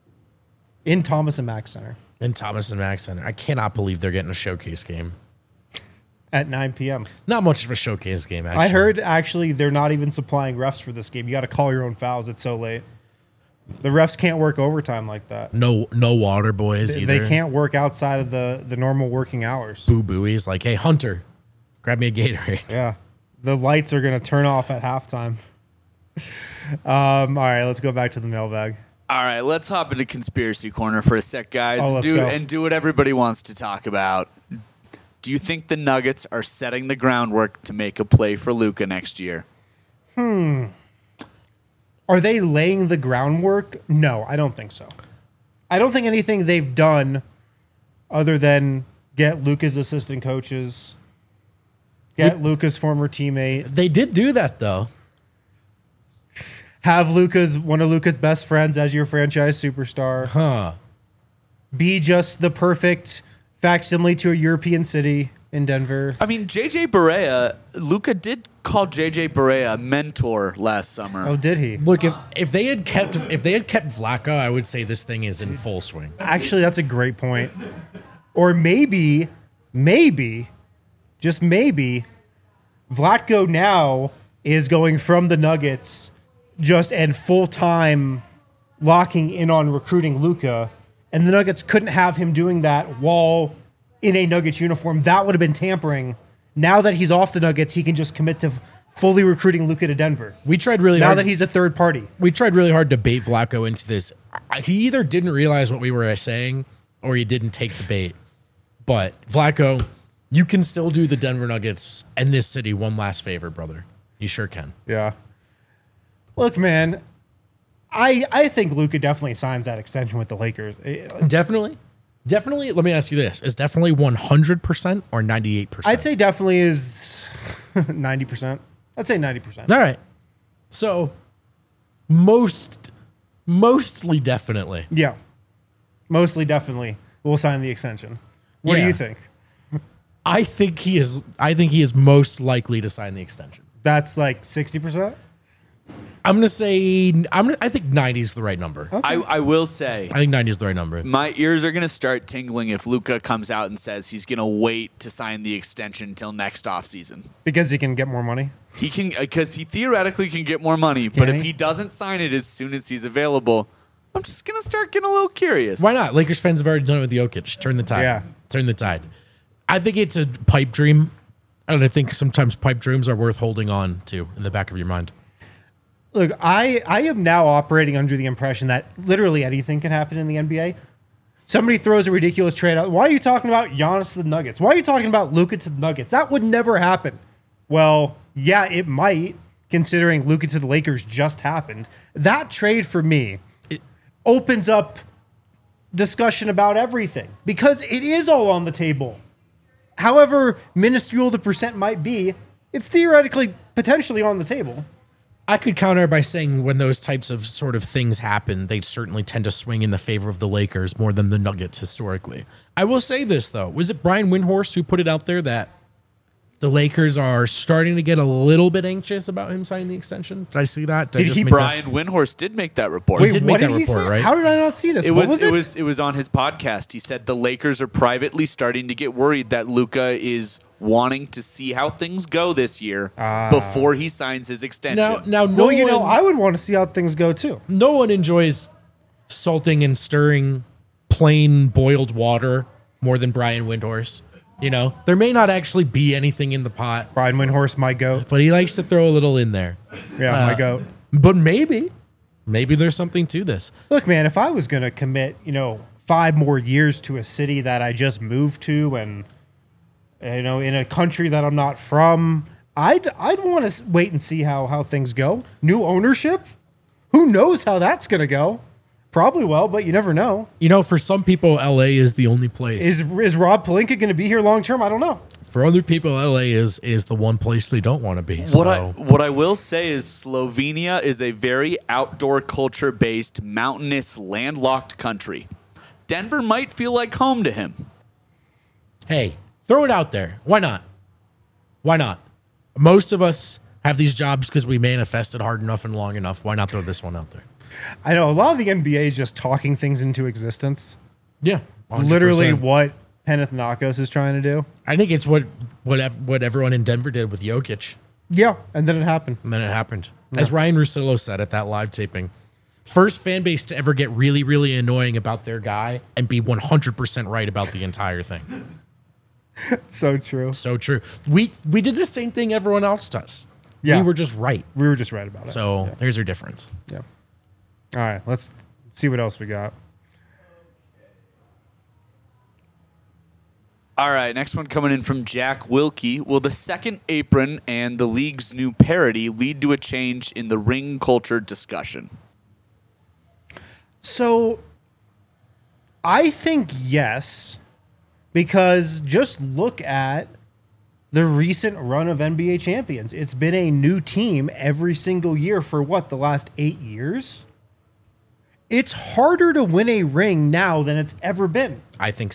In Thomas and Mack Center. And Thomas and Mack Center. I cannot believe they're getting a showcase game. At 9 p.m. Not much of a showcase game, actually. I heard, actually, they're not even supplying refs for this game. You got to call your own fouls. It's so late. The refs can't work overtime like that. No water boys either. They can't work outside of the normal working hours. Boo Booey's like, hey, Hunter, grab me a Gatorade. Yeah. The lights are going to turn off at halftime. All right, let's go back to the mailbag. All right, let's hop into conspiracy corner for a sec, guys. Oh, let's go. And do what everybody wants to talk about. Do you think the Nuggets are setting the groundwork to make a play for Luka next year? Are they laying the groundwork? No, I don't think so. I don't think anything they've done other than get Luka's assistant coaches, get Luka's former teammate, They did do that, though. have one of Luka's best friends as your franchise superstar, Huh. be just the perfect facsimile to a European city in Denver. I mean, JJ Barea, Luka did call JJ Barea a mentor last summer. Oh, did he? Look, if they had kept Vlaco, I would say this thing is in full swing. Actually, that's a great point. Or maybe, just maybe, Vlatko now is going from the Nuggets and full-time locking in on recruiting Luka, and the Nuggets couldn't have him doing that while in a Nuggets uniform. That would have been tampering. Now that he's off the Nuggets, he can just commit to fully recruiting Luka to Denver. We tried really Now hard. that he's a third party. We tried really hard to bait Vlatko into this. He either didn't realize what we were saying or he didn't take the bait. But Vlatko, you can still do the Denver Nuggets and this city one last favor, brother. You sure can. Yeah. Look, man, I think Luka definitely signs that extension with the Lakers. Definitely. Definitely. Let me ask you this. Is definitely 100% or 98%? I'd say definitely is 90%. I'd say 90%. All right. So mostly definitely. Yeah. Mostly definitely we'll sign the extension. What do Yeah. you think? I think he is most likely to sign the extension. That's like 60%? I'm going to say I think 90 is the right number. I will say, I think 90 is the right number. my ears are going to start tingling if Luka comes out and says he's going to wait to sign the extension until next offseason. Because he can get more money? He can, because he theoretically can get more money, but Can if he? he doesn't sign it as soon as he's available, I'm just going to start getting a little curious. Why not? Lakers fans have already done it with Jokic. Turn the tide. Yeah. Turn the tide. I think it's a pipe dream. And I think sometimes pipe dreams are worth holding on to in the back of your mind. Look, I am now operating under the impression that literally anything can happen in the NBA. Somebody throws a ridiculous trade out. Why are you talking about Giannis to the Nuggets? Why are you talking about Luka to the Nuggets? That would never happen. Well, yeah, it might, considering Luka to the Lakers just happened. That trade for me opens up discussion about everything because it is all on the table. However minuscule the percent might be, it's theoretically potentially on the table. I could counter by saying when those types of sort of things happen, they certainly tend to swing in the favor of the Lakers more than the Nuggets historically. I will say this, though. Was it Brian Windhorst who put it out there that the Lakers are starting to get a little bit anxious about him signing the extension? Did I see that? Did he- Brian Windhorst did make that report. Wait, did make what that did he report, say? right? How did I not see this? It What was it was on his podcast. He said the Lakers are privately starting to get worried that Luka is wanting to see how things go this year before he signs his extension. Now, Well, you know, I would want to see how things go too. no one enjoys salting and stirring plain boiled water more than Brian Windhorst. You know, there may not actually be anything in the pot, Brian Windhorst, my goat. but he likes to throw a little in there. Yeah, my goat. But maybe there's something to this. Look, man, if I was going to commit, 5 more years to a city that I just moved to and, in a country that I'm not from, I'd want to wait and see how things go. New ownership? Who knows how that's going to go? Probably well, but you never know. You know, for some people, LA is the only place. Is Rob Pelinka going to be here long term? I don't know. For other people, LA is the one place they don't want to be. What I will say is Slovenia is a very outdoor culture based, mountainous, landlocked country. Denver might feel like home to him. Hey, throw it out there. Why not? Why not? Most of us have these jobs because we manifested hard enough and long enough. Why not throw this one out there? I know a lot of the NBA is just talking things into existence. Yeah, 100%. Literally what Panathinaikos is trying to do. I think it's what everyone in Denver did with Jokic, Yeah, and then it happened. and then it happened. As Ryan Russillo said at that live taping, first fan base to ever get really, really annoying about their guy and be 100% right about the entire thing. So true. So true. We did the same thing everyone else does. Yeah. We were just right. We were just right about it. So there's your difference. Yeah. All right, let's see what else we got. All right, next one coming in from Jack Wilkie. Will the second apron and the league's new parody lead to a change in the ring culture discussion? So I think yes, because just look at the recent run of NBA champions. It's been a new team every single year for the last 8 years? It's harder to win a ring now than it's ever been. I think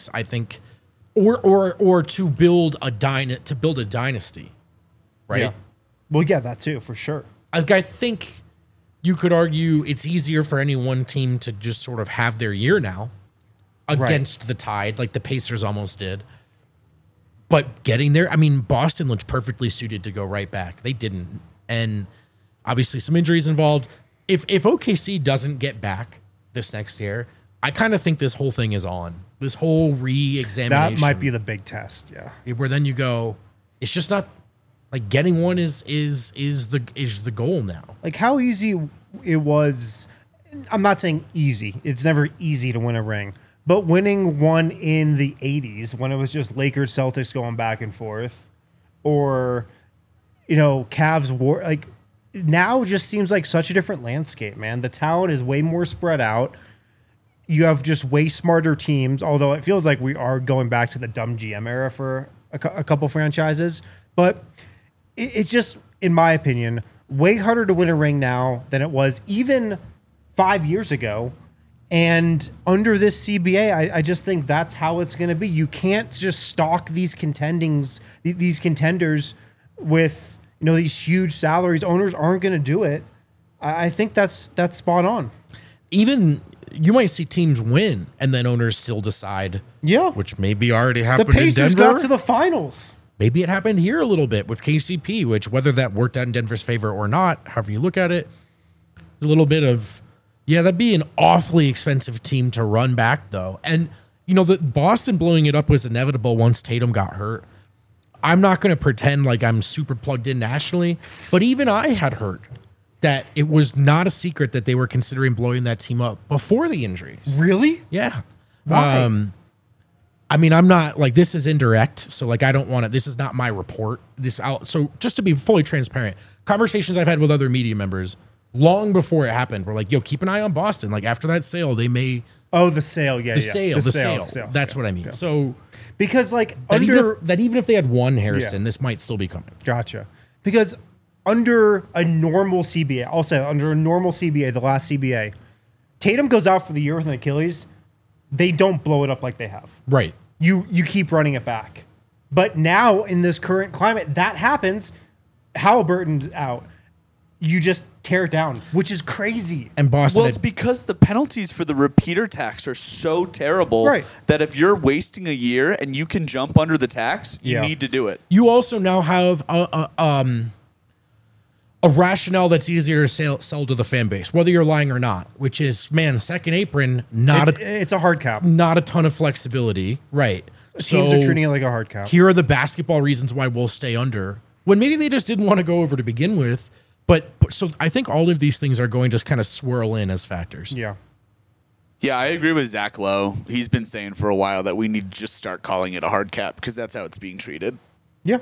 or to build a dynasty, right? Yeah. Well, yeah, that too, for sure. I think you could argue it's easier for any one team to just sort of have their year now against the tide, like the Pacers almost did. But getting there, I mean, Boston looked perfectly suited to go right back. They didn't. And obviously some injuries involved. If OKC doesn't get back this next year, I kind of think this whole thing is on. This whole re-examination. That might be the big test. Yeah. where then you go, it's just not like getting one is the goal now. Like how easy it was. I'm not saying easy. It's never easy to win a ring, but winning one in the 80s when it was just Lakers Celtics going back and forth, or Cavs war, like now just seems like such a different landscape, man. The talent is way more spread out. You have just way smarter teams, although it feels like we are going back to the dumb GM era for a couple franchises. But it's just, in my opinion, way harder to win a ring now than it was even 5 years ago. And under this CBA, I just think that's how it's going to be. You can't just stock these contenders with these huge salaries. Owners aren't going to do it. I think that's spot on. Even you might see teams win and then owners still decide. Yeah, which maybe already the happened in Pacers Denver. got to the finals. Maybe it happened here a little bit with KCP, which whether that worked out in Denver's favor or not, however you look at it, a little bit of, that'd be an awfully expensive team to run back though. And the Boston blowing it up was inevitable once Tatum got hurt. I'm not going to pretend like I'm super plugged in nationally, but even I had heard that it was not a secret that they were considering blowing that team up before the injuries. Really? Yeah. Why? I mean, I'm not like, this is indirect, so like I don't want to. This is not my report. So just to be fully transparent, conversations I've had with other media members long before it happened were like, "Yo, keep an eye on Boston. Like after that sale, they may." Oh, the sale, the sale. That's what I mean. Yeah. So because like even if they had won Harrison, this might still be coming. Gotcha. Because under a normal CBA, I'll say under a normal CBA, the last CBA, Tatum goes out for the year with an Achilles. They don't blow it up like they have. Right. You keep running it back. But now in this current climate, that happens. Halliburton's out. You just tear it down, which is crazy. And Boston. Well, it's because the penalties for the repeater tax are so terrible that if you're wasting a year and you can jump under the tax, you need to do it. You also now have a rationale that's easier to sell to the fan base, whether you're lying or not, which is, man, second apron, it's a hard cap. Not a ton of flexibility. Right. Teams are treating it like a hard cap. Here are the basketball reasons why we'll stay under, when maybe they just didn't want to go over to begin with. But so I think all of these things are going to kind of swirl in as factors. Yeah. Yeah, I agree with Zach Lowe. He's been saying for a while that we need to just start calling it a hard cap because that's how it's being treated. Yeah.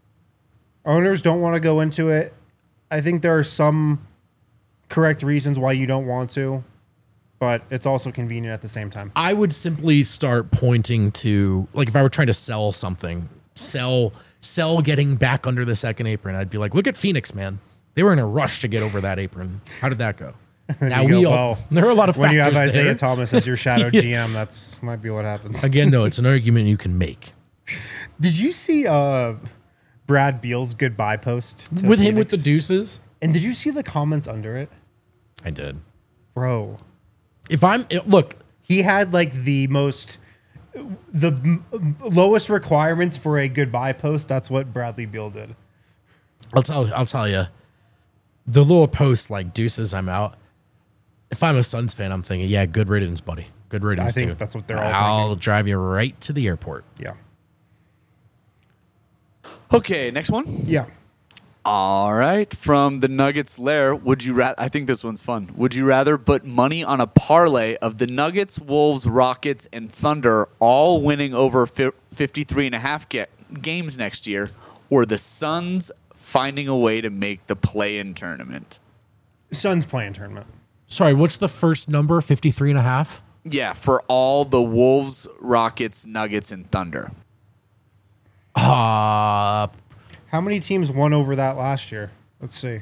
Owners don't want to go into it. I think there are some correct reasons why you don't want to, but it's also convenient at the same time. I would simply start pointing to, like, if I were trying to sell something, sell getting back under the second apron, I'd be like, look at Phoenix, man. They were in a rush to get over that apron. How did that go? Now there are a lot of factors. When you have Isaiah there. Thomas as your shadow GM, that's might be what happens. Again, no, it's an argument you can make. Did you see Brad Beal's goodbye post with him with the deuces? And did you see the comments under it? I did, bro. He had like the lowest requirements for a goodbye post. That's what Bradley Beal did. I'll tell you. The little post like deuces, I'm out. If I'm a Suns fan, I'm thinking, yeah, good riddance, buddy. Good riddance. I think that's what they're all I'll thinking. drive you right to the airport. Yeah. Okay, next one. Yeah. All right, from the Nuggets lair, would you rather? I think this one's fun. Would you rather put money on a parlay of the Nuggets, Wolves, Rockets, and Thunder all winning over 53.5 games next year, or the Suns finding a way to make the play-in tournament? Suns play-in tournament. Sorry, what's the first number? 53.5? Yeah, for all the Wolves, Rockets, Nuggets, and Thunder. How many teams won over that last year? Let's see.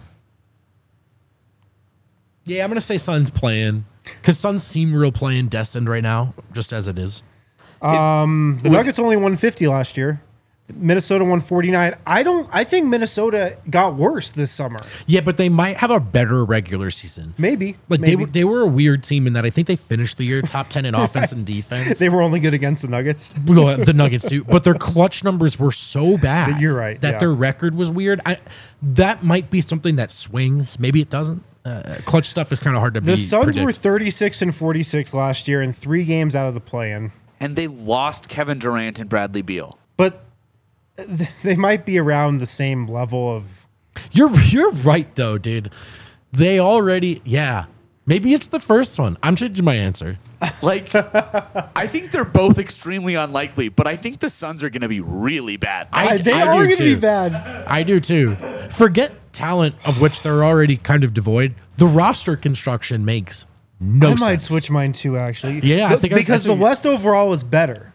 Yeah, I'm going to say Suns playing, because Suns seem real playing destined right now, just as it is. The Nuggets only won 50 last year. Minnesota won 49. I think Minnesota got worse this summer. Yeah, but they might have a better regular season. Maybe. They were a weird team in that I think they finished the year top 10 in offense and defense. They were only good against the Nuggets. Well, the Nuggets too, but their clutch numbers were so bad. You're right. That their record was weird. That might be something that swings. Maybe it doesn't. Clutch stuff is kind of hard to The Suns predict. were 36 and 46 last year and 3 games out of the play-in. And they lost Kevin Durant and Bradley Beal. But they might be around the same level of... You're right though, dude. They already maybe it's the first one. I'm changing my answer. Like, I think they're both extremely unlikely, but I think the Suns are going to be really bad. They I are do going to too. be bad. I do too. Forget talent, of which they're already kind of devoid. The roster construction makes no sense. I might switch mine too, actually. Yeah, I think because that's the what West overall is better.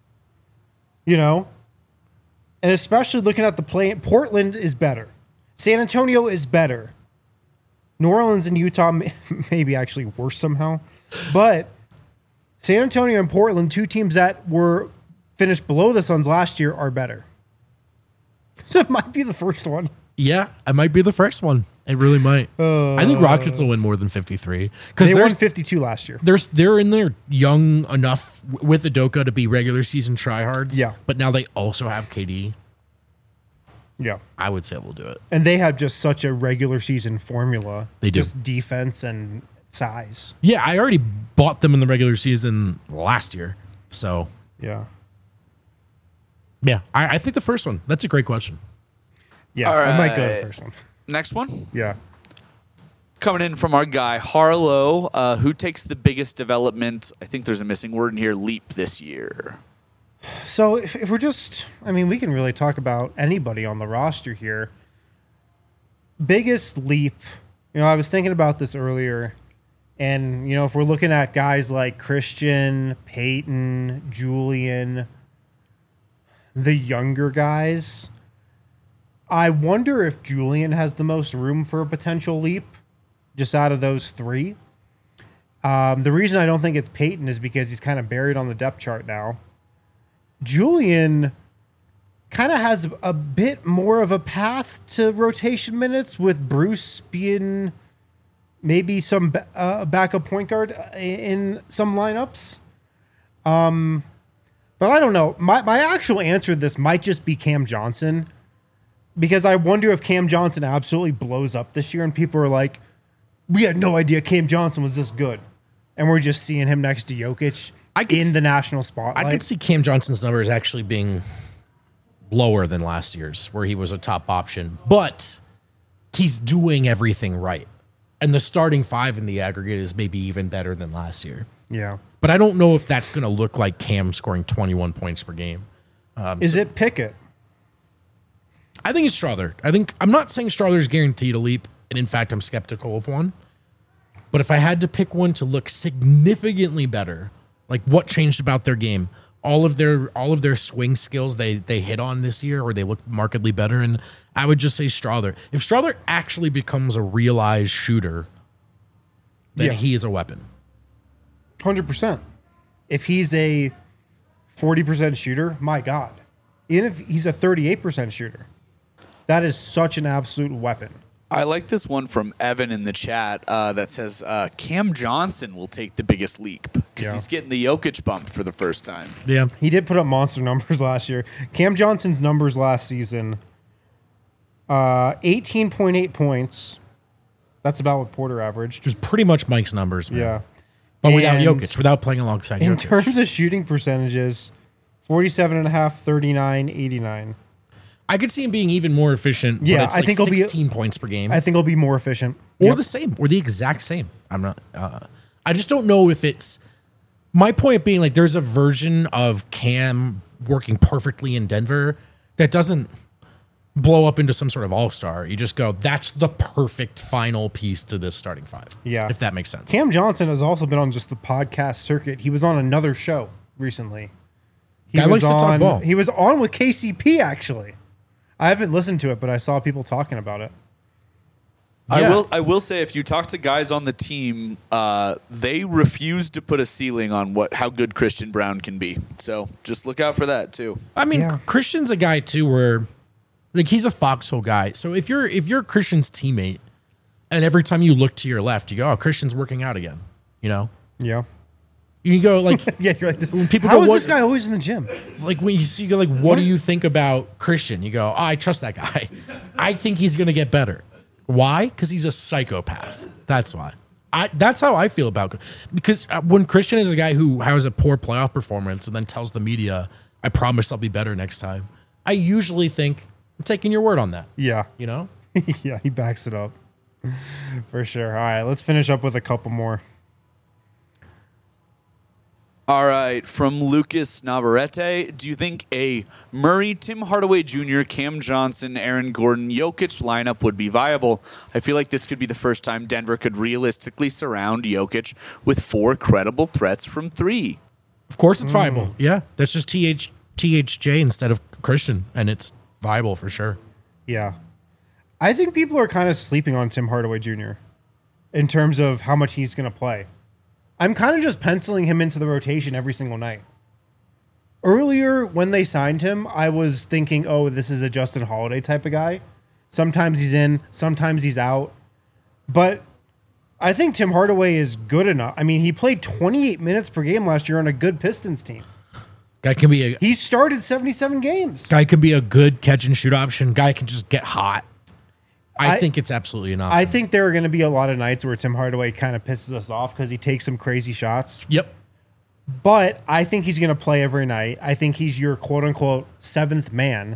You know? And especially looking at the play, Portland is better. San Antonio is better. New Orleans and Utah maybe actually worse somehow. But San Antonio and Portland, 2 teams that were finished below the Suns last year, are better. So it might be the first one. Yeah, it might be the first one. It really might. I think Rockets will win more than 53 because They won 52 last year. they're in there young enough with Udoka to be regular season tryhards. Yeah. But now they also have KD. Yeah. I would say we'll do it. And they have just such a regular season formula. They do. Just defense and size. Yeah, I already bought them in the regular season last year. So, Yeah. yeah, I think the first one. That's a great question. Yeah. All I might go to right. the first one. Next one. Yeah. Coming in from our guy, Harlow, who takes the biggest development, I think there's a missing word in here, leap this year. So if we're just, I mean, we can really talk about anybody on the roster here. Biggest leap, I was thinking about this earlier. And, if we're looking at guys like Christian, Peyton, Julian, the younger guys, I wonder if Julian has the most room for a potential leap just out of those 3. The reason I don't think it's Peyton is because he's kind of buried on the depth chart now. Julian kind of has a bit more of a path to rotation minutes with Bruce being maybe some backup point guard in some lineups. But I don't know. My actual answer to this might just be Cam Johnson, because I wonder if Cam Johnson absolutely blows up this year and people are like, we had no idea Cam Johnson was this good. And we're just seeing him next to Jokic in the national spotlight. I could see Cam Johnson's numbers actually being lower than last year's, where he was a top option, but he's doing everything right. And the starting 5 in the aggregate is maybe even better than last year. Yeah. But I don't know if that's going to look like Cam scoring 21 points per game. Is it Pickett? I think it's Strawther. I'm not saying Strawther's guaranteed a leap, and in fact, I'm skeptical of one. But if I had to pick one to look significantly better, like what changed about their game, all of their swing skills they hit on this year, or they look markedly better, and I would just say Strawther. If Strawther actually becomes a realized shooter, then he is a weapon. 100%. If he's a 40% shooter, my God. Even if he's a 38% shooter, that is such an absolute weapon. I like this one from Evan in the chat that says Cam Johnson will take the biggest leap because he's getting the Jokic bump for the first time. Yeah. He did put up monster numbers last year. Cam Johnson's numbers last season, 18.8 points. That's about what Porter averaged. It was pretty much Mike's numbers, man. Yeah. But without And Jokic, without playing alongside in Jokic. terms of shooting percentages, 47.5, 39, 89. I could see him being even more efficient, Yeah, but it's I like think he'll be- 16 points per game. I think he'll be more efficient. Or Yep. the same, or the exact same. I'm not. I just don't know if it's. My point being, like, there's a version of Cam working perfectly in Denver that doesn't blow up into some sort of all-star. You just go, that's the perfect final piece to this starting 5. Yeah. If that makes sense. Cam Johnson has also been on just the podcast circuit. He was on another show recently. Guy likes to talk ball. He was on with KCP, actually. I haven't listened to it, but I saw people talking about it. Yeah. I will say, if you talk to guys on the team, they refuse to put a ceiling on how good Christian Brown can be. So just look out for that too. I mean, Yeah. Christian's a guy too where, like, he's a foxhole guy. So if you're Christian's teammate, and every time you look to your left, you go, "Oh, Christian's working out again," you know. Yeah. You go like, Yeah, you're like this. When people How go, is "What-" this guy always in the gym? like when you go like, what do you think about Christian? You go, oh, I trust that guy. I think he's gonna get better. Why? Because he's a psychopath. That's why. That's how I feel about it. Because when Christian is a guy who has a poor playoff performance and then tells the media, I promise I'll be better next time, I usually think, I'm taking your word on that. Yeah. You know? Yeah, he backs it up. For sure. All right, let's finish up with a couple more. All right, from Lucas Navarrete, do you think a Murray, Tim Hardaway Jr., Cam Johnson, Aaron Gordon, Jokic lineup would be viable? I feel like this could be the first time Denver could realistically surround Jokic with 4 credible threats from 3. Of course it's viable. Yeah. That's just THJ instead of Christian, and it's viable for sure. Yeah. I think people are kind of sleeping on Tim Hardaway Jr. in terms of how much he's going to play. I'm kind of just penciling him into the rotation every single night. Earlier, when they signed him, I was thinking, oh, this is a Justin Holiday type of guy. Sometimes he's in, sometimes he's out. But I think Tim Hardaway is good enough. I mean, he played 28 minutes per game last year on a good Pistons team. He started 77 games. Guy can be a good catch and shoot option. Guy can just get hot. I think it's absolutely an option. I think there are going to be a lot of nights where Tim Hardaway kind of pisses us off because he takes some crazy shots. Yep. But I think he's going to play every night. I think he's your quote-unquote 7th man.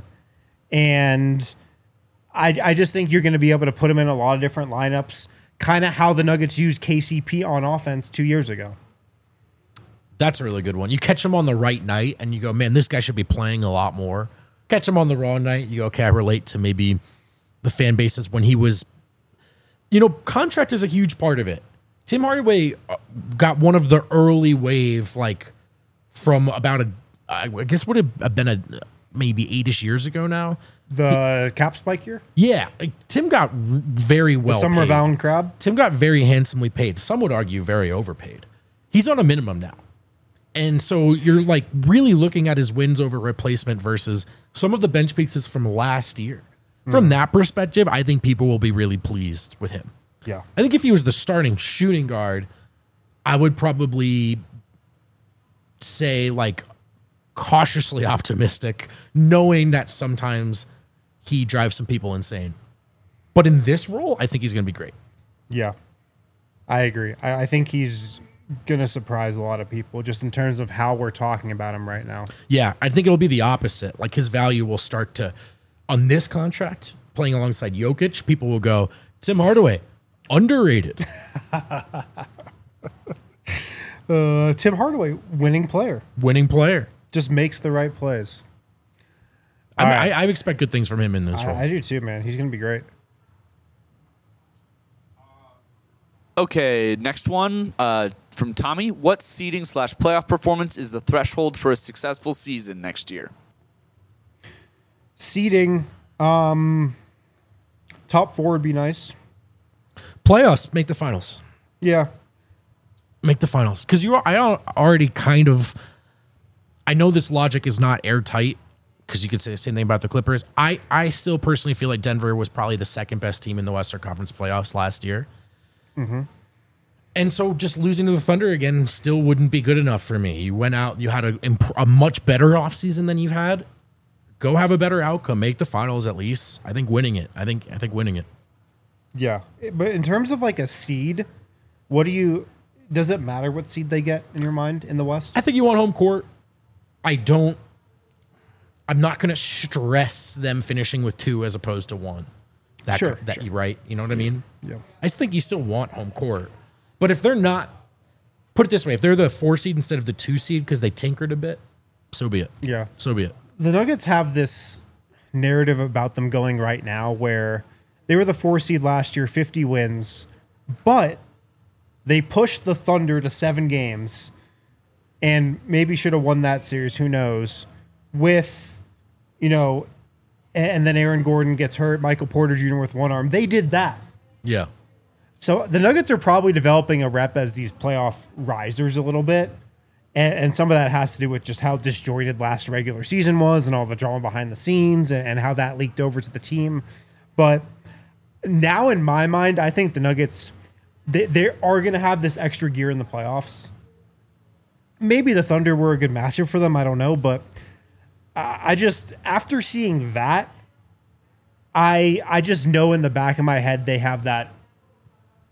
And I just think you're going to be able to put him in a lot of different lineups, kind of how the Nuggets used KCP on offense 2 years ago. That's a really good one. You catch him on the right night, and you go, man, this guy should be playing a lot more. Catch him on the wrong night, you go, okay, I relate to maybe the fan bases when he was, contract is a huge part of it. Tim Hardaway got one of the early wave, like from about I guess would have been maybe 8-ish years ago now. The cap spike year? Yeah. Like, Tim got very well paid. Summer paid. Bound Crab? Tim got very handsomely paid. Some would argue very overpaid. He's on a minimum now. And so you're like really looking at his wins over replacement versus some of the bench pieces from last year. From that perspective, I think people will be really pleased with him. Yeah. I think if he was the starting shooting guard, I would probably say like cautiously optimistic, knowing that sometimes he drives some people insane. But in this role, I think he's going to be great. Yeah. I agree. I think he's going to surprise a lot of people just in terms of how we're talking about him right now. Yeah, I think it'll be the opposite. Like his value will start to, on this contract, playing alongside Jokic, people will go, Tim Hardaway, underrated. Tim Hardaway, winning player. Winning player. Just makes the right plays. I expect good things from him in this role. I do too, man. He's going to be great. Okay, next one from Tommy. What seeding / playoff performance is the threshold for a successful season next year? Seeding, top 4 would be nice. Playoffs, make the finals. Yeah. Make the finals. Because I already kind of, I know this logic is not airtight, because you could say the same thing about the Clippers. I still personally feel like Denver was probably the second best team in the Western Conference playoffs last year. Mm-hmm. And so just losing to the Thunder again still wouldn't be good enough for me. You went out, you had a much better offseason than you've had. Go have a better outcome. Make the finals at least. I think winning it. I think winning it. Yeah. But in terms of like a seed, does it matter what seed they get in your mind in the West? I think you want home court. I'm not going to stress them finishing with 2 as opposed to 1. Sure. You right. You know what I mean? Yeah. I just think you still want home court. But if they're not, put it this way, if they're the 4 seed instead of the 2 seed because they tinkered a bit, so be it. Yeah. So be it. The Nuggets have this narrative about them going right now where they were the 4 seed last year, 50 wins, but they pushed the Thunder to 7 games and maybe should have won that series, who knows, with, and then Aaron Gordon gets hurt, Michael Porter Jr. with one arm. They did that. Yeah. So the Nuggets are probably developing a rep as these playoff risers a little bit. And some of that has to do with just how disjointed last regular season was and all the drama behind the scenes and how that leaked over to the team. But now in my mind, I think the Nuggets, they are going to have this extra gear in the playoffs. Maybe the Thunder were a good matchup for them. I don't know. But I just, after seeing that, I just know in the back of my head they have that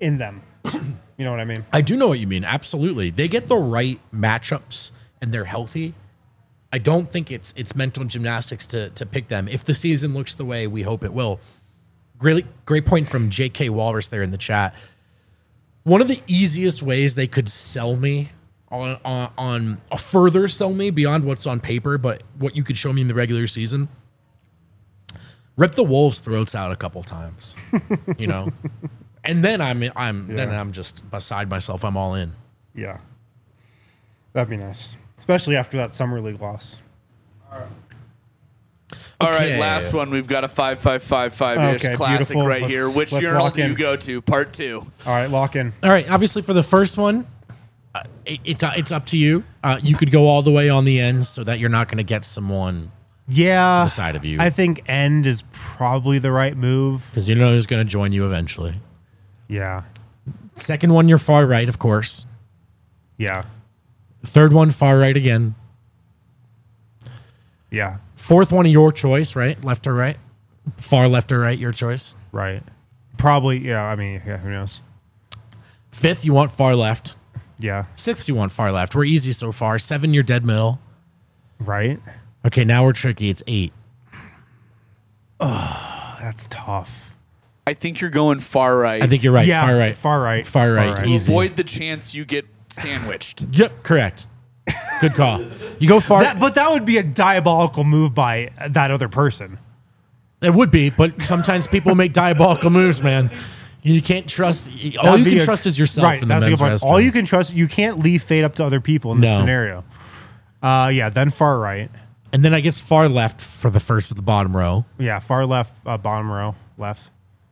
in them. You know what I mean? I do know what you mean. Absolutely. They get the right matchups and they're healthy. I don't think it's mental gymnastics to pick them. If the season looks the way we hope it will. Great point from JK Walrus there in the chat. One of the easiest ways they could sell me on a further sell me beyond what's on paper, but what you could show me in the regular season, rip the Wolves' throats out a couple times, you know, and then I'm just beside myself. I'm all in. Yeah, that'd be nice, especially after that summer league loss. All right, Okay. last one. We've got a 5-5-5-5-ish Okay, classic beautiful. right here. Which Let's urinal lock do you in. go to? Part 2. All right, lock in. All right. Obviously, for the first one, it's up to you. You could go all the way on the end so that you're not going to get someone Yeah, to the side of you. I think end is probably the right move. because you know who's going to join you eventually. Yeah, Second one, you're far right, of course. yeah, Third one, far right again. yeah. Fourth one, your choice, right? Left or right? Far left or right, your choice. Right. Probably. Yeah. I mean, yeah. Who knows? Fifth, you want far left. Yeah. Sixth, you want far left. We're easy so far. 7, you're dead middle. Right. Okay, now we're tricky. It's 8. That's tough. I think you're going far right. I think you're right. Yeah. Far right. Far right. Far right. to Easy. avoid the chance you get sandwiched. Yep, correct. Good call. You go far. But that would be a diabolical move by that other person. It would be, but sometimes people make diabolical moves, man. You can't trust. All That'd you be can a- trust is yourself Right. in the That's a men's good point. restroom. All you can trust. You can't leave fate up to other people in this No. scenario. Yeah. Then far right. And then I guess far left for the first of the bottom row. Yeah. Far left. Bottom row. Left.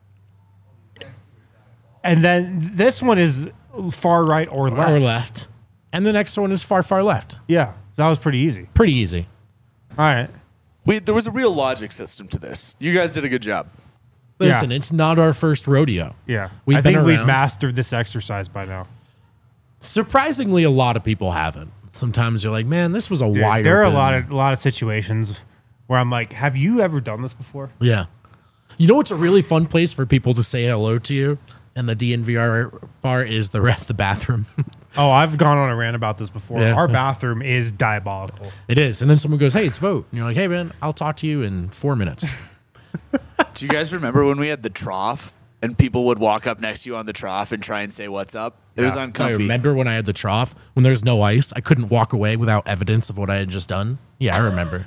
And then this one is far right or left. Or left. And the next one is far, far left. Yeah. That was pretty easy. Pretty easy. All right. There was a real logic system to this. You guys did a good job. Listen, Yeah. it's not our first rodeo. Yeah. We've I been think we've around. mastered this exercise by now. Surprisingly, a lot of people haven't. Sometimes you're like, man, this was a Dude, wide there are open. a lot of situations where I'm like, have you ever done this before? Yeah. You know what's a really fun place for people to say hello to you? And the DNVR bar is the bathroom. Oh, I've gone on a rant about this before. Yeah. Our bathroom is diabolical. It is. And then someone goes, hey, it's vote. And you're like, hey, man, I'll talk to you in 4 minutes. Do you guys remember when we had the trough and people would walk up next to you on the trough and try and say what's up? It was Yeah. I uncomfy. remember when I had the trough, when there's no ice, I couldn't walk away without evidence of what I had just done. Yeah, I remember.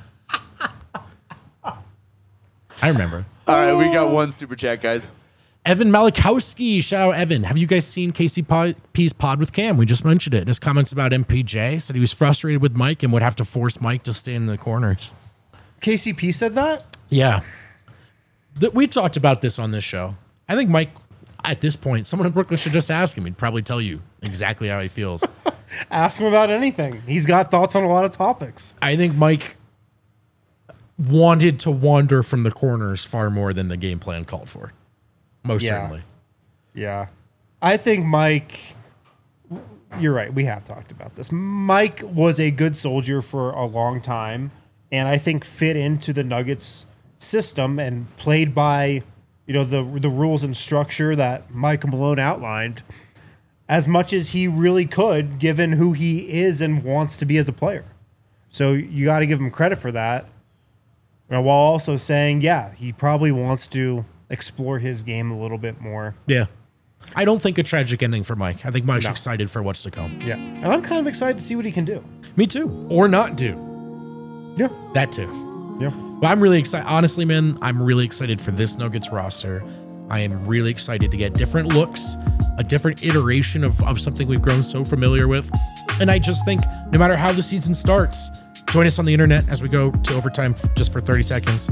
I remember. All right, we got one super chat, guys. Evan Malikowski, shout out Evan. Have you guys seen KCP's pod with Cam? We just mentioned it. In his comments about MPJ, said he was frustrated with Mike and would have to force Mike to stay in the corners. KCP said that? Yeah. We talked about this on this show. I think Mike, at this point, someone in Brooklyn should just ask him. He'd probably tell you exactly how he feels. Ask him about anything. He's got thoughts on a lot of topics. I think Mike wanted to wander from the corners far more than the game plan called for. Most Yeah. certainly. Yeah. I think Mike, you're right. We have talked about this. Mike was a good soldier for a long time, and I think fit into the Nuggets system and played by, the rules and structure that Mike Malone outlined as much as he really could, given who he is and wants to be as a player. So you got to give him credit for that, while also saying, yeah, he probably wants to explore his game a little bit more. Yeah. I don't think a tragic ending for Mike. I think Mike's No. excited for what's to come. Yeah. And I'm kind of excited to see what he can do. Me too. Or not do. Yeah. That too. Yeah. But I'm really excited. Honestly, man, I'm really excited for this Nuggets roster. I am really excited to get different looks, a different iteration of something we've grown so familiar with. And I just think no matter how the season starts, join us on the internet as we go to overtime just for 30 seconds.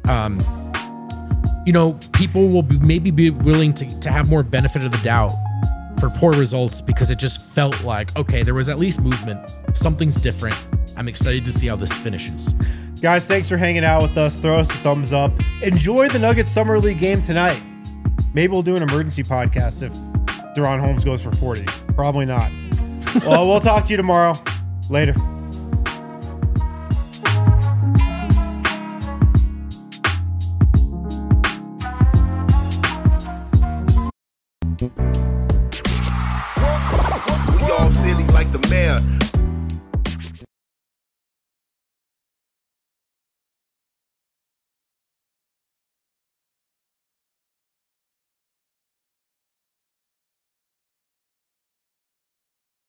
People will maybe be willing to have more benefit of the doubt for poor results because it just felt like, okay, there was at least movement. Something's different. I'm excited to see how this finishes. Guys, thanks for hanging out with us. Throw us a thumbs up. Enjoy the Nuggets Summer League game tonight. Maybe we'll do an emergency podcast if Deron Holmes goes for 40. Probably not. Well, we'll talk to you tomorrow. Later. like the mayor.